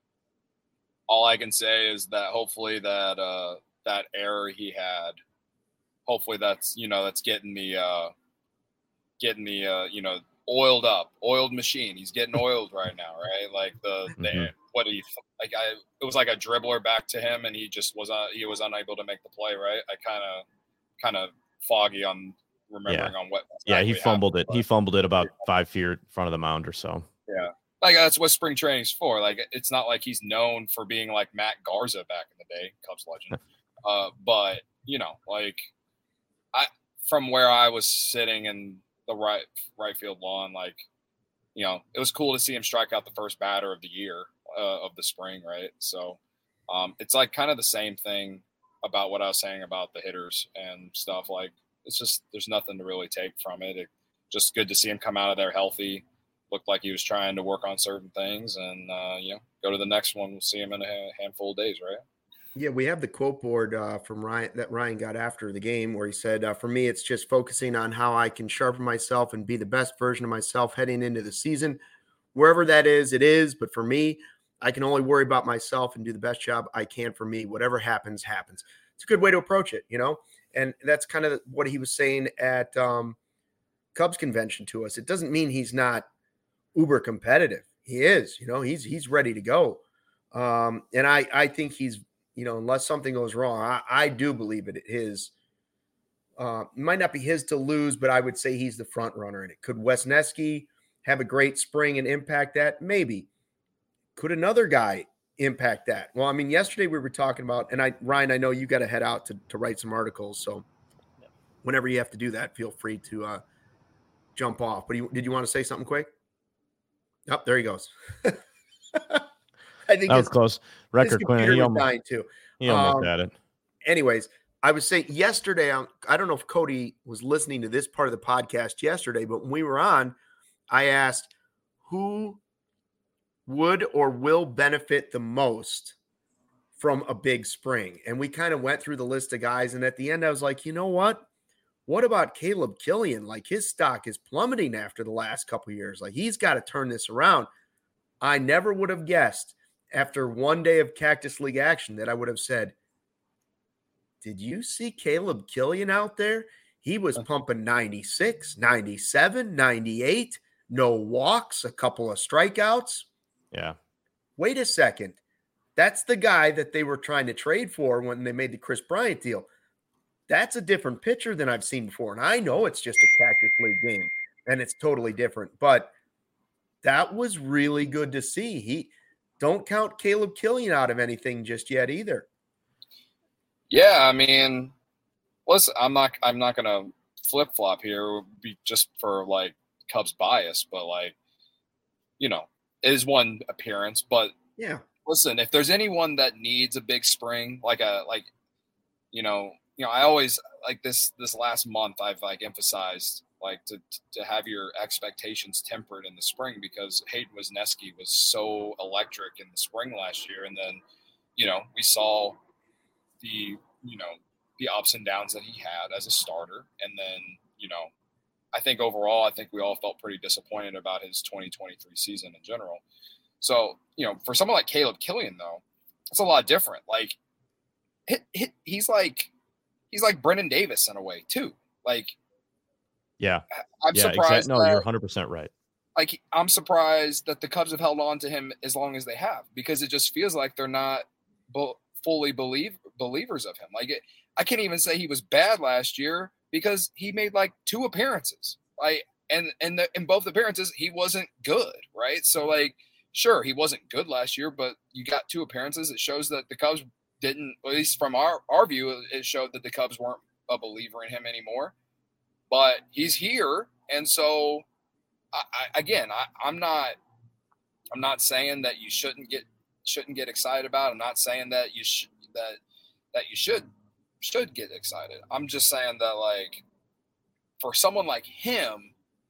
S2: All I can say is that hopefully that uh, that error he had, hopefully that's, you know, that's getting the uh, getting the uh, you know, oiled up, oiled machine. He's getting oiled right now, right? Like the, the mm-hmm. what do you like? I it was like a dribbler back to him, and he just was uh, he was unable to make the play, right? I kind of kind of foggy on remembering
S3: yeah.
S2: on what.
S3: Exactly yeah, he fumbled
S2: happened,
S3: it. He fumbled it about five feet in front of the mound or so.
S2: Yeah, like that's what spring training's for. Like it's not like he's known for being like Matt Garza back in the day, Cubs legend. uh, but you know, like I from where I was sitting in the right right field lawn, like, you know, it was cool to see him strike out the first batter of the year uh, of the spring, right? So um, it's like kind of the same thing about what I was saying about the hitters and stuff. Like it's just there's nothing to really take from it. It just good to see him come out of there healthy. Looked like he was trying to work on certain things, and uh, you know, go to the next one. We'll see him in a handful of days, right?
S1: Yeah, we have the quote board uh, from Ryan that Ryan got after the game where he said, uh, for me, it's just focusing on how I can sharpen myself and be the best version of myself heading into the season. Wherever that is, it is. But for me, I can only worry about myself and do the best job I can for me. Whatever happens, happens. It's a good way to approach it, you know? And that's kind of what he was saying at um, Cubs convention to us. It doesn't mean he's not uber competitive. He is, you know, he's he's ready to go. Um, and I, I think he's, you know, unless something goes wrong, I, I do believe it his uh, – might not be his to lose, but I would say he's the front runner in it. Could Wesneski have a great spring and impact that? Maybe. Could another guy impact that? Well, I mean, yesterday we were talking about – and I Ryan, I know you got to head out to, to write some articles, so whenever you have to do that, feel free to uh, jump off. But you, did you want to say something quick? Oh, there he goes. I think
S3: that was close. Record Quinn. He almost,
S1: dying too.
S3: He almost
S1: um,
S3: had it.
S1: Anyways, I was saying yesterday, I don't know if Cody was listening to this part of the podcast yesterday, but when we were on, I asked who would or will benefit the most from a big spring. And we kind of went through the list of guys. And at the end, I was like, you know what? What about Caleb Killian? Like his stock is plummeting after the last couple of years. Like he's got to turn this around. I never would have guessed after one day of Cactus League action that I would have said, did you see Caleb Killian out there? He was pumping ninety-six, ninety-seven, ninety-eight, no walks, a couple of strikeouts.
S3: Yeah.
S1: Wait a second. That's the guy that they were trying to trade for when they made the Chris Bryant deal. That's a different pitcher than I've seen before. And I know it's just a Cactus League game and it's totally different, but that was really good to see. He don't count Caleb Killian out of anything just yet either.
S2: Yeah, I mean, listen, I'm not I'm not gonna flip flop here be just for like Cubs bias, but like, you know, it is one appearance. But
S1: yeah,
S2: listen, if there's anyone that needs a big spring, like a like, you know, you know, I always like this this last month I've like emphasized like to to have your expectations tempered in the spring because Hayden Wesneski was so electric in the spring last year. And then, you know, we saw the, you know, the ups and downs that he had as a starter. And then, you know, I think overall, I think we all felt pretty disappointed about his twenty twenty-three season in general. So, you know, for someone like Caleb Killian, though, it's a lot different. Like, hit, hit, he's like, he's like Brendan Davis in a way too. Like,
S3: yeah,
S2: I'm
S3: yeah,
S2: surprised.
S3: Exactly. No,
S2: that,
S3: you're one hundred percent right.
S2: Like, I'm surprised that the Cubs have held on to him as long as they have, because it just feels like they're not be- fully believe believers of him. Like, it, I can't even say he was bad last year because he made like two appearances. Like, and and the, in both appearances he wasn't good, right? So like, sure, he wasn't good last year, but you got two appearances. It shows that the Cubs didn't, at least from our our view, it showed that the Cubs weren't a believer in him anymore. But he's here, and so I, I, again, I, I'm not, I'm not saying that you shouldn't get shouldn't get excited about it. I'm not saying that you should that that you should should get excited. I'm just saying that, like, for someone like him,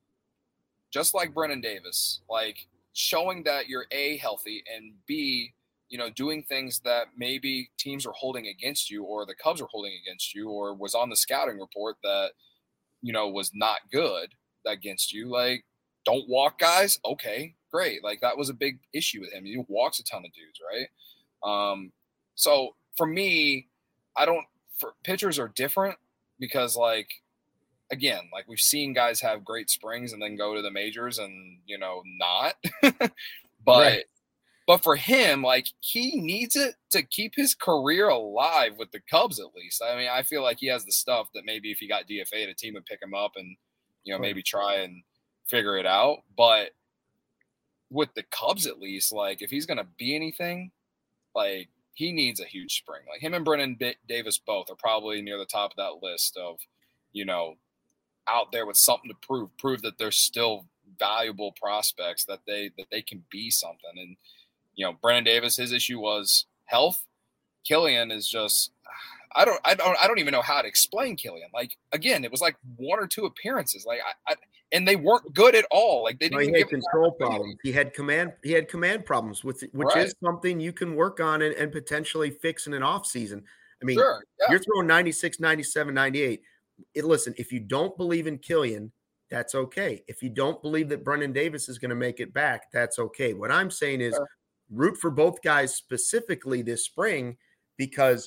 S2: just like Brendan Davis, like showing that you're A, healthy, and B, you know, doing things that maybe teams are holding against you, or the Cubs are holding against you, or was on the scouting report that, you know, was not good against you. Like, don't walk guys. Okay, great. Like, that was a big issue with him. He walks a ton of dudes, right? Um, so for me, I don't, for pitchers are different because, like, again, like we've seen guys have great springs and then go to the majors and, you know, not. but right. But for him, like, he needs it to keep his career alive with the Cubs, at least. I mean, I feel like he has the stuff that maybe if he got D F A'd, a team would pick him up and, you know, maybe try and figure it out. But with the Cubs, at least, like, if he's going to be anything, like, he needs a huge spring. Like, him and Brennan B- Davis both are probably near the top of that list of, you know, out there with something to prove, prove that they're still valuable prospects, that they that they can be something. And, you know, Brennan Davis, his issue was health. Killian is just, I don't, I don't, I don't even know how to explain Killian. Like, again, it was like one or two appearances, like, I, I and they weren't good at all. Like, they didn't
S1: no, he had control problems. He had command, he had command problems with, which right. is something you can work on and, and potentially fix in an off season. I mean,
S2: sure, yeah.
S1: You're throwing ninety-six, ninety-seven, ninety-eight. It, listen, if you don't believe in Killian, that's okay. If you don't believe that Brennan Davis is going to make it back, that's okay. What I'm saying is, sure. root for both guys specifically this spring, because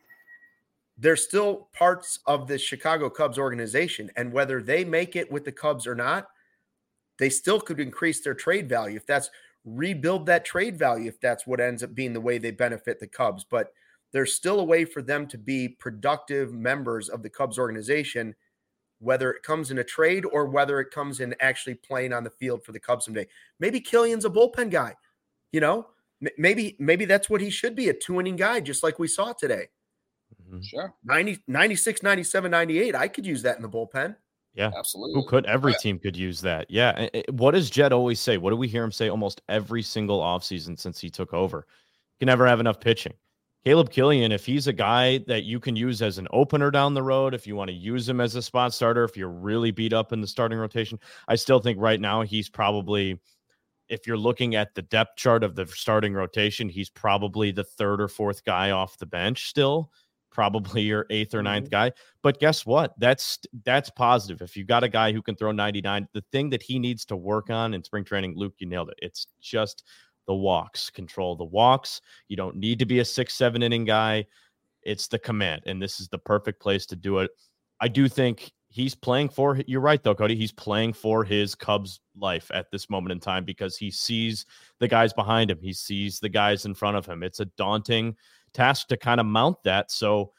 S1: they're still parts of the Chicago Cubs organization. And whether they make it with the Cubs or not, they still could increase their trade value. If that's rebuild that trade value, if that's what ends up being the way they benefit the Cubs. But there's still a way for them to be productive members of the Cubs organization, whether it comes in a trade or whether it comes in actually playing on the field for the Cubs someday. Maybe Killian's a bullpen guy. You know, maybe maybe that's what he should be, a two-inning guy, just like we saw today.
S2: Mm-hmm. Sure.
S1: ninety, ninety-six, ninety-seven, ninety-eight, I could use that in the bullpen.
S3: Yeah,
S2: absolutely.
S3: Who could? Every team could use that. Yeah. What does Jed always say? What do we hear him say almost every single offseason since he took over? You can never have enough pitching. Caleb Killian, if he's a guy that you can use as an opener down the road, if you want to use him as a spot starter, if you're really beat up in the starting rotation, I still think right now he's probably – if you're looking at the depth chart of the starting rotation, he's probably the third or fourth guy off the bench still, probably your eighth or ninth mm-hmm. guy. But guess what? That's that's positive. If you got a guy who can throw ninety-nine, the thing that he needs to work on in spring training, Luke, you nailed it. It's just the walks. Control the walks. You don't need to be a six, seven inning guy. It's the command, and this is the perfect place to do it. I do think he's playing for, you're right though, Cody, he's playing for his Cubs life at this moment in time because he sees the guys behind him. He sees the guys in front of him. It's a daunting task to kind of mount that. So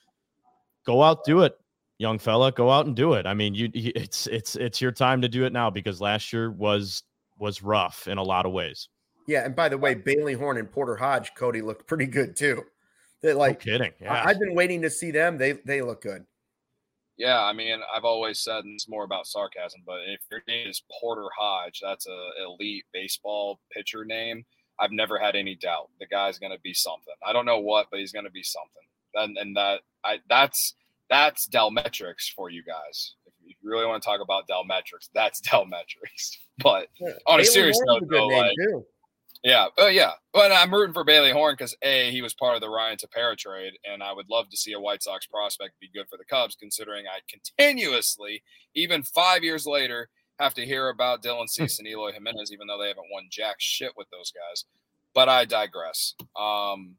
S3: go out, do it, young fella, go out and do it. I mean, you, it's, it's, it's your time to do it now because last year was, was rough in a lot of ways.
S1: Yeah. And by the way, Bailey Horn and Porter Hodge, Cody, looked pretty good too. They're like,
S3: no kidding. Yeah.
S1: I, I've been waiting to see them. They, they look good.
S2: Yeah, I mean, I've always said, and it's more about sarcasm, but if your name is Porter Hodge, that's a elite baseball pitcher name. I've never had any doubt the guy's going to be something. I don't know what, but he's going to be something. And and that I that's that's Delmetrics for you guys. If you really want to talk about Delmetrics, that's Delmetrics. But yeah, on a serious note, though, like, too. Yeah, oh yeah. But I'm rooting for Bailey Horn because A, he was part of the Ryan Tepera trade, and I would love to see a White Sox prospect be good for the Cubs, considering I continuously, even five years later, have to hear about Dylan Cease and Eloy Jimenez, even though they haven't won jack shit with those guys. But I digress. Um,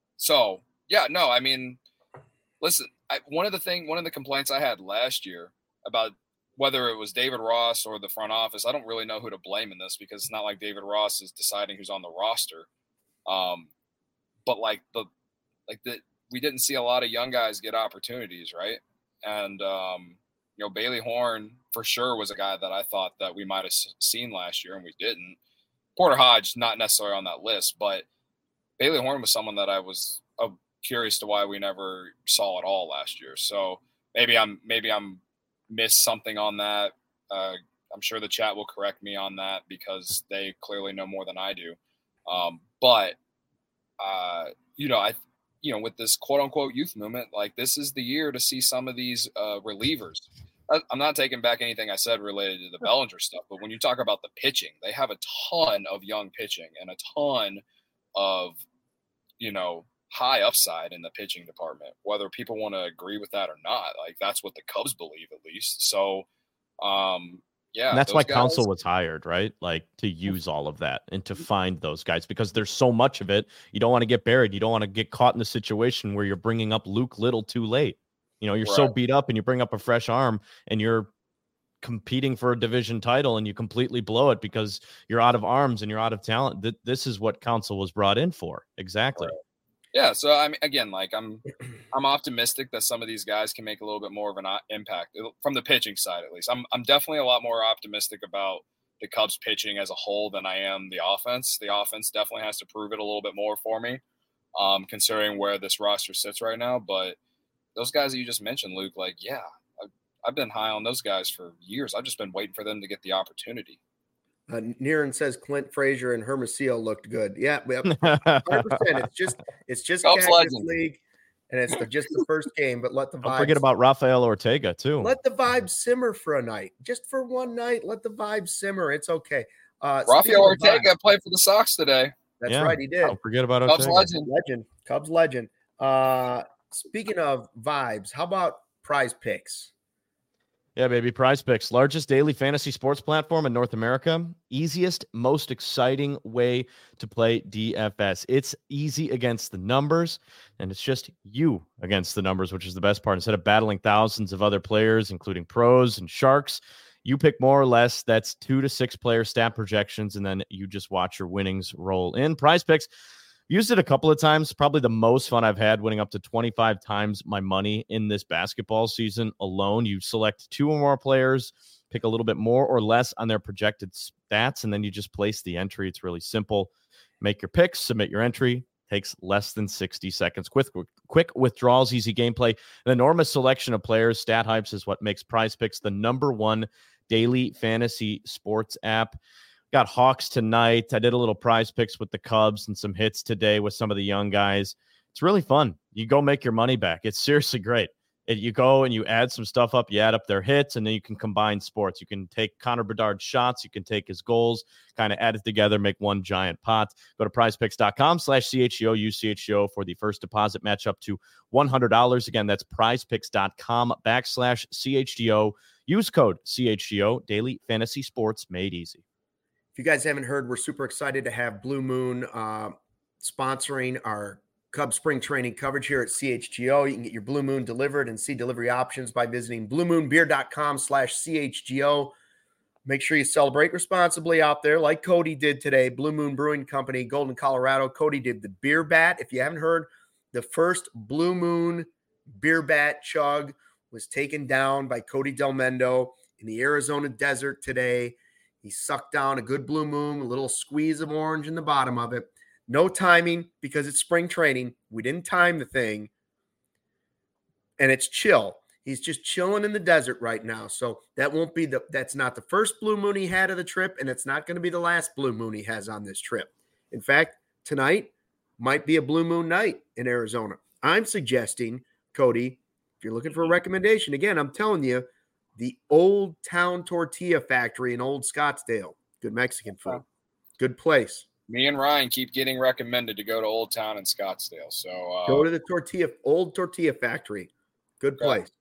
S2: so yeah, no, I mean, listen, I, one of the thing, one of the complaints I had last year about whether it was David Ross or the front office, I don't really know who to blame in this because it's not like David Ross is deciding who's on the roster. Um, but like the, like the, we didn't see a lot of young guys get opportunities. Right. And, um, you know, Bailey Horn for sure was a guy that I thought that we might've seen last year and we didn't. Porter Hodge, not necessarily on that list, but Bailey Horn was someone that I was uh, curious to why we never saw at all last year. So maybe I'm, maybe I'm, missed something on that. Uh, I'm sure the chat will correct me on that because they clearly know more than I do. Um, but, uh, you know, I, you know, with this quote unquote youth movement, like this is the year to see some of these uh, relievers. I, I'm not taking back anything I said related to the Bellinger stuff, but when you talk about the pitching, they have a ton of young pitching and a ton of, you know, high upside in the pitching department, whether people want to agree with that or not. Like that's what the Cubs believe at least. So, um, yeah,
S3: and that's why guys... Counsell was hired, right? Like to use all of that and to find those guys because there's so much of it. You don't want to get buried. You don't want to get caught in the situation where you're bringing up Luke Little too late. You know, you're right. so beat up and you bring up a fresh arm and you're competing for a division title and you completely blow it because you're out of arms and you're out of talent. Th- this is what Counsell was brought in for. Exactly.
S2: Right. Yeah. So I mean, again, like I'm, I'm optimistic that some of these guys can make a little bit more of an impact from the pitching side, at least. I'm, I'm definitely a lot more optimistic about the Cubs pitching as a whole than I am the offense. The offense definitely has to prove it a little bit more for me, um, considering where this roster sits right now. But those guys that you just mentioned, Luke, like, yeah, I've, I've been high on those guys for years. I've just been waiting for them to get the opportunity.
S1: Uh, Niren says Clint Frazier and Hermosillo looked good. Yeah, one hundred percent. It's just it's just
S2: Cubs
S1: Cactus
S2: legend.
S1: League, and it's the, just the first game. But let the
S3: Don't
S1: vibes,
S3: forget about Rafael Ortega too.
S1: Let the vibes simmer for a night, just for one night. Let the vibes simmer. It's okay. Uh,
S2: Rafael Ortega vibes, played for the Sox today.
S1: That's
S3: yeah,
S1: right, he did.
S3: Don't forget about
S2: Cubs
S3: Ortega.
S2: legend.
S1: Legend, Cubs legend. Uh, speaking of vibes, how about Prize Picks?
S3: Yeah, baby. Prize Picks, largest daily fantasy sports platform in North America. Easiest, most exciting way to play D F S. It's easy against the numbers, and it's just you against the numbers, which is the best part. Instead of battling thousands of other players, including pros and sharks, you pick more or less. That's two to six player stat projections, and then you just watch your winnings roll in. Prize Picks. Used it a couple of times, probably the most fun I've had, winning up to twenty-five times my money in this basketball season alone. You select two or more players, pick a little bit more or less on their projected stats, and then you just place the entry. It's really simple. Make your picks, submit your entry. Takes less than sixty seconds. Quick, quick withdrawals, easy gameplay. An enormous selection of players. Stat Hypes is what makes Prize Picks the number one daily fantasy sports app. Got Hawks tonight. I did a little Prize Picks with the Cubs and some hits today with some of the young guys. It's really fun. You go make your money back. It's seriously great. It, you go and you add some stuff up. You add up their hits, and then you can combine sports. You can take Connor Bedard's shots. You can take his goals, kind of add it together, make one giant pot. Go to prizepicks.com slash CHGO. Use C H G O for the first deposit match up to one hundred dollars. Again, that's prizepicks.com backslash CHGO. Use code C H G O. Daily fantasy sports made easy.
S1: If you guys haven't heard, we're super excited to have Blue Moon uh, sponsoring our Cubs spring training coverage here at C H G O. You can get your Blue Moon delivered and see delivery options by visiting bluemoonbeer.com slash CHGO. Make sure you celebrate responsibly out there like Cody did today. Blue Moon Brewing Company, Golden, Colorado. Cody did the beer bat. If you haven't heard, the first Blue Moon beer bat chug was taken down by Cody Del Mendo in the Arizona desert today. He sucked down a good Blue Moon, a little squeeze of orange in the bottom of it. No timing because it's spring training. We didn't time the thing. And it's chill. He's just chilling in the desert right now. So that won't be the, that's not the first Blue Moon he had of the trip, and it's not going to be the last Blue Moon he has on this trip. In fact, tonight might be a Blue Moon night in Arizona. I'm suggesting, Cody, if you're looking for a recommendation, again, I'm telling you, the Old Town Tortilla Factory in Old Scottsdale. Good Mexican food. Good place.
S2: Me and Ryan keep getting recommended to go to Old Town in Scottsdale. So uh,
S1: go to the tortilla, Old Tortilla Factory. Good place. Okay.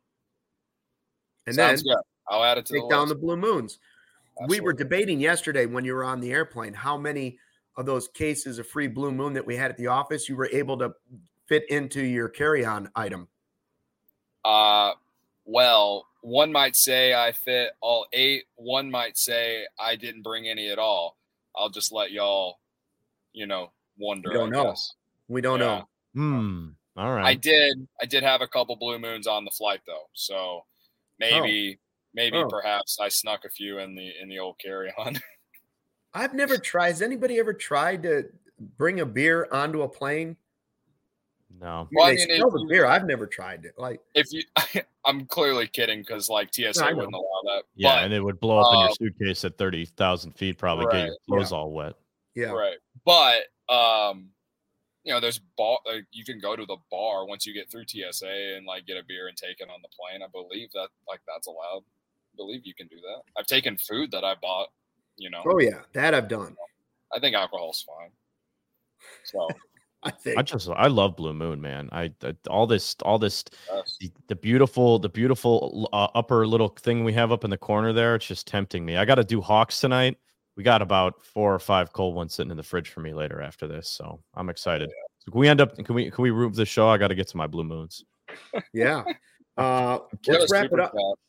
S1: And
S2: Sounds
S1: then
S2: good. I'll add it to
S1: take
S2: the
S1: down
S2: list.
S1: the Blue Moons.
S2: Absolutely.
S1: We were debating yesterday when you were on the airplane how many of those cases of free Blue Moon that we had at the office you were able to fit into your carry-on item.
S2: Uh, well, one might say I fit all eight. One might say I didn't bring any at all. I'll just let y'all, you know, wonder.
S1: We don't
S2: I
S1: know.
S2: Guess.
S1: We don't
S2: Yeah.
S1: know.
S3: Hmm. All right.
S2: I did. I did have a couple Blue Moons on the flight though, so maybe, oh. maybe
S1: oh.
S2: perhaps I snuck a few in the in the old carry-on.
S1: I've never tried. Has anybody ever tried to bring a beer onto a plane?
S3: No.
S1: I mean,
S2: Well, I
S1: they
S2: mean,
S1: sell
S2: if
S1: the
S2: you-
S1: beer. I've never tried it. Like,
S2: if you, I'm clearly kidding because like T S A
S1: No, I know.
S2: wouldn't allow that.
S3: Yeah,
S2: but,
S3: and it would blow up in
S2: uh,
S3: your suitcase at thirty thousand feet, probably get your
S2: Right,
S3: clothes all wet.
S1: yeah.
S2: Right. But um, you know, there's bar. Uh, you can go to the bar once you get through T S A and like get a beer and take it on the plane. I believe that like that's allowed. I believe you can do that. I've taken food that I bought. You know,
S1: Oh yeah, that I've done.
S2: I think alcohol's fine. So
S1: I think.
S3: I just I love Blue Moon, man. I, I all this all this
S2: that's,
S3: the, the beautiful the beautiful uh, upper little thing we have up in the corner there. It's just tempting me. I got to do Hawks tonight. We got about four or five cold ones sitting in the fridge for me later after this, so I'm excited.
S2: Yeah.
S3: So can we end up? Can we can we root the show? I got to get to my Blue Moons.
S1: Yeah. Uh,
S2: we have
S1: let's
S2: a
S1: wrap it
S2: super
S1: up.
S2: chat.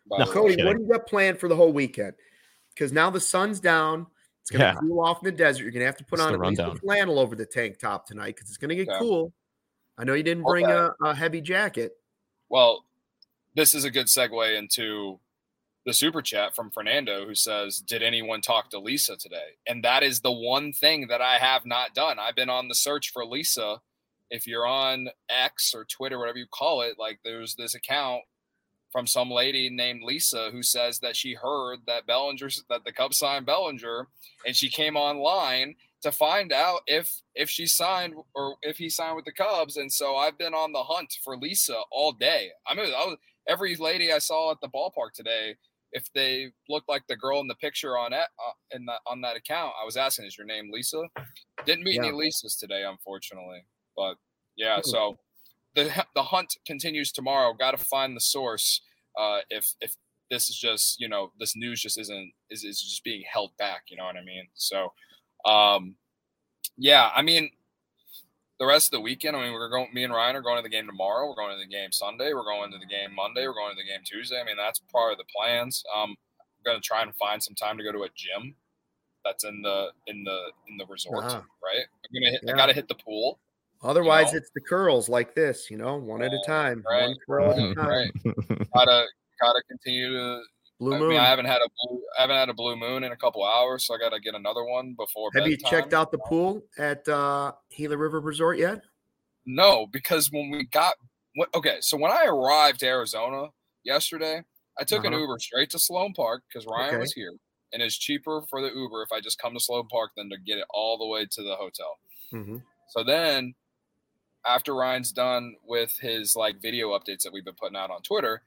S1: No, Cody, what do you got planned for the whole weekend? Because now the sun's down. It's going to yeah. cool off in the desert. You're going to have to put it's on at least a flannel over the tank top tonight because it's going to get yeah. cool. I know you didn't bring okay. a, a heavy jacket.
S2: Well, this is a good segue into the super chat from Fernando, who says, did anyone talk to Lisa today? And that is the one thing that I have not done. I've been on the search for Lisa. If you're on X or Twitter, whatever you call it, like there's this account from some lady named Lisa who says that she heard that Bellinger, that the Cubs signed Bellinger, and she came online to find out if if she signed or if he signed with the Cubs. And so I've been on the hunt for Lisa all day. I mean, I was, every lady I saw at the ballpark today, if they looked like the girl in the picture on that, uh, in that on that account, I was asking, "Is your name Lisa?" Didn't meet yeah. any Lisas today, unfortunately. But yeah, so the the hunt continues tomorrow. Got to find the source. Uh, if if this is just, you know, this news just isn't is is just being held back. You know what I mean? So, um, yeah, I mean, the rest of the weekend, I mean, we're going. Me and Ryan are going to the game tomorrow. We're going to the game Sunday. We're going to the game Monday. We're going to the game Tuesday. I mean, that's part of the plans. Um, I'm going to try and find some time to go to a gym that's in the in the in the resort. Uh-huh. Right? I'm gonna hit, yeah. I got to hit the pool.
S1: Otherwise, you know? It's the curls like this, you know, one at a time.
S2: Right.
S1: One curl at a time.
S2: Right. gotta gotta continue to.
S1: Blue
S2: I
S1: moon.
S2: mean, I haven't had a blue, I haven't had a blue moon in a couple hours, so I got to get another one before.
S1: Have
S2: bedtime.
S1: you checked out the pool at uh, Gila River Resort yet?
S2: No, because when we got what? Okay, so when I arrived to Arizona yesterday, I took uh-huh. an Uber straight to Sloan Park because Ryan okay. was here, and it's cheaper for the Uber if I just come to Sloan Park than to get it all the way to the hotel.
S1: Mm-hmm.
S2: So then, after Ryan's done with his like video updates that we've been putting out on Twitter,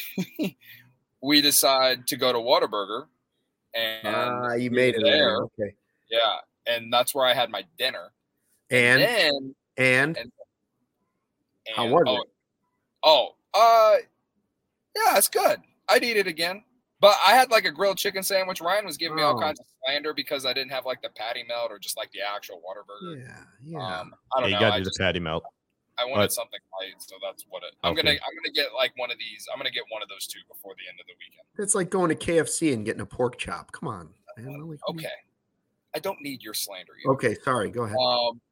S2: we decide to go to Whataburger. And
S1: uh, you made it there. Okay.
S2: Yeah, and that's where I had my dinner.
S1: And
S2: and then,
S1: and, and,
S2: and
S1: how was
S2: oh,
S1: it?
S2: Oh, uh, yeah, it's good. I'd eat it again. But I had like a grilled chicken sandwich. Ryan was giving me all oh. kinds of slander because I didn't have like the patty melt or just like the actual Whataburger.
S1: Yeah, yeah.
S2: Um, I don't
S3: yeah,
S2: know.
S3: You gotta
S2: I
S3: do
S2: just,
S3: the patty melt.
S2: I wanted but, something light, so that's what it. I'm
S3: okay.
S2: gonna I'm gonna get like one of these. I'm gonna get one of those two before the end of the weekend.
S1: It's like going to K F C and getting a pork chop. Come on. Man, like,
S2: okay, I don't need your slander. Either.
S1: Okay, sorry. Go ahead.
S2: Um.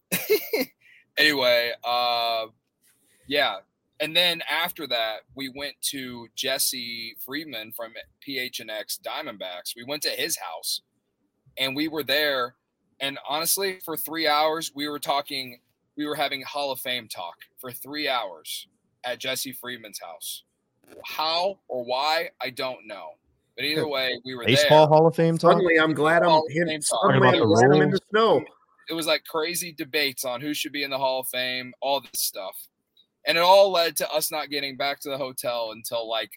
S2: anyway, uh, yeah. And then after that, we went to Jesse Friedman from P H N X Diamondbacks. We went to his house, and we were there. And honestly, for three hours, we were talking. We were having Hall of Fame talk for three hours at Jesse Friedman's house. How or why, I don't know. But either way, we were
S3: Baseball
S2: there.
S3: Hall of Fame talk?
S1: Suddenly, I'm glad I'm here. Suddenly, I'm glad I'm in the snow.
S2: It was like crazy debates on who should be in the Hall of Fame, all this stuff. And it all led to us not getting back to the hotel until like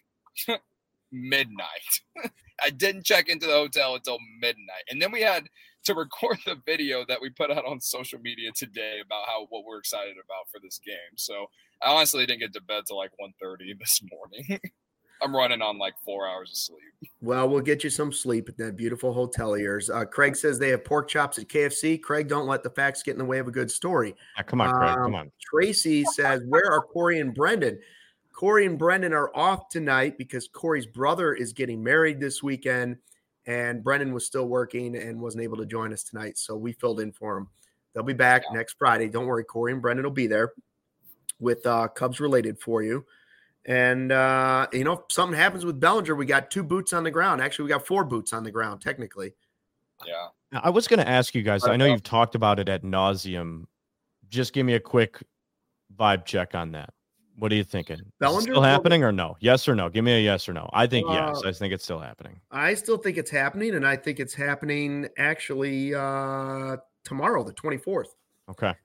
S2: midnight. I didn't check into the hotel until midnight. And then we had to record the video that we put out on social media today about how what we're excited about for this game. So I honestly didn't get to bed till like one thirty this morning. I'm running on like four hours of sleep.
S1: Well, we'll get you some sleep at that beautiful hotel of yours. Uh, Craig says they have pork chops at K F C. Craig, don't let the facts get in the way of a good story.
S3: Ah, come on, Craig.
S1: Um,
S3: come on.
S1: Tracy says, where are Corey and Brendan? Corey and Brendan are off tonight because Corey's brother is getting married this weekend, and Brendan was still working and wasn't able to join us tonight, so we filled in for him. They'll be back yeah. next Friday. Don't worry, Corey and Brendan will be there with uh, Cubs related for you. And, uh, you know, if something happens with Bellinger, we got two boots on the ground. Actually, we got four boots on the ground, technically.
S2: Yeah.
S3: I was going to ask you guys, I know you've talked about it at nauseum. Just give me a quick vibe check on that. What are you thinking? Bellinger still happening or no? Yes or no? Give me a yes or no. I think uh, yes. I think it's still happening.
S1: I still think it's happening, and I think it's happening actually uh, tomorrow, the twenty-fourth.
S3: Okay.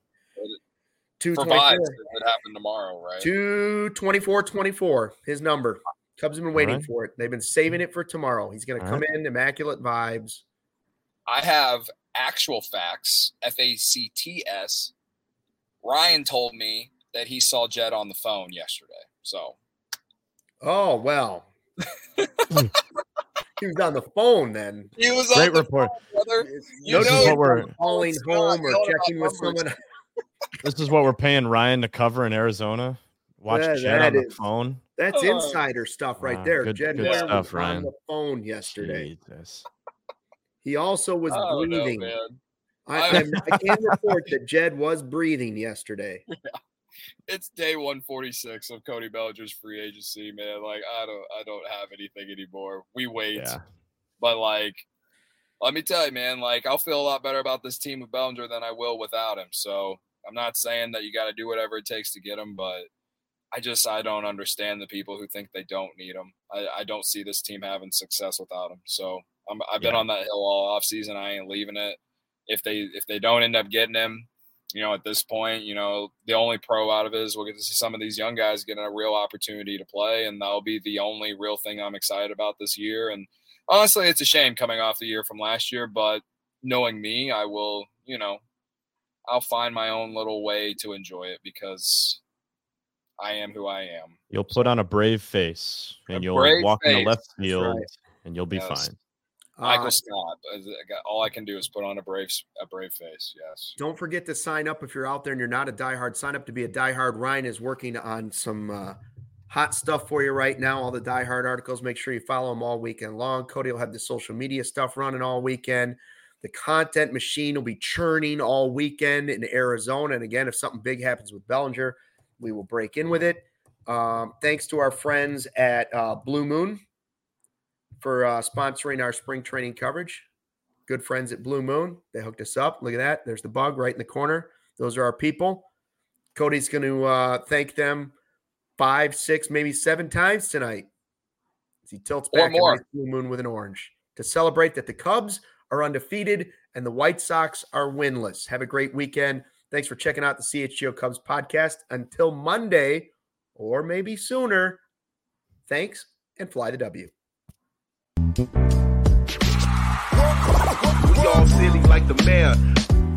S2: two twenty-four. It happened tomorrow, right?
S1: two twenty-four twenty-four, his number. Cubs have been waiting right. for it. They've been saving it for tomorrow. He's going to come right. in, immaculate vibes.
S2: I have actual facts, F A C T S. Ryan told me that he saw Jed on the phone yesterday. So.
S1: Oh, well. He was on the phone then.
S2: He was
S3: Great
S2: on the
S3: report.
S2: phone, brother.
S1: You
S3: this
S1: know
S3: is what we're
S1: calling home or checking with someone.
S3: This is what we're paying Ryan to cover in Arizona. Watch
S1: yeah,
S3: Jed on the is, phone.
S1: That's uh, insider stuff right wow, there.
S3: Good,
S1: Jed
S3: good stuff,
S1: was
S3: Ryan.
S1: on the phone yesterday.
S3: Jesus.
S1: He also was
S2: oh,
S1: breathing.
S2: No,
S1: I, I, I can report that Jed was breathing yesterday.
S2: Yeah. It's day one forty-six of Cody Bellinger's free agency, man. Like I don't, I don't have anything anymore. We wait, yeah. But like, let me tell you, man. Like I'll feel a lot better about this team with Bellinger than I will without him. So I'm not saying that you got to do whatever it takes to get him, but I just I don't understand the people who think they don't need him. I, I don't see this team having success without him. So I'm, I've been yeah. on that hill all offseason. I ain't leaving it. If they if they don't end up getting him, you know, at this point, you know, the only pro out of it is we'll get to see some of these young guys getting a real opportunity to play, and that'll be the only real thing I'm excited about this year. And honestly, it's a shame coming off the year from last year, but knowing me, I will, you know, I'll find my own little way to enjoy it because I am who I am.
S3: You'll put on a brave face and a you'll walk face. in the left field right. and you'll be yes. fine.
S2: Michael uh, Scott. All I can do is put on a brave, a brave face. Yes.
S1: Don't forget to sign up if you're out there and you're not a diehard. Sign up to be a diehard. Ryan is working on some uh, hot stuff for you right now. All the diehard articles. Make sure you follow them all weekend long. Cody will have the social media stuff running all weekend. The content machine will be churning all weekend in Arizona. And again, if something big happens with Bellinger, we will break in with it. Um, thanks to our friends at uh, Blue Moon for uh, sponsoring our spring training coverage. Good friends at Blue Moon. They hooked us up. Look at that. There's the bug right in the corner. Those are our people. Cody's going to uh, thank them five, six, maybe seven times tonight as he tilts back and makes Blue Moon with an orange to celebrate that the Cubs are undefeated and the White Sox are winless. Have a great weekend. Thanks for checking out the C H G O Cubs podcast. Until Monday, or maybe sooner, thanks and fly the W. We all silly like the mayor.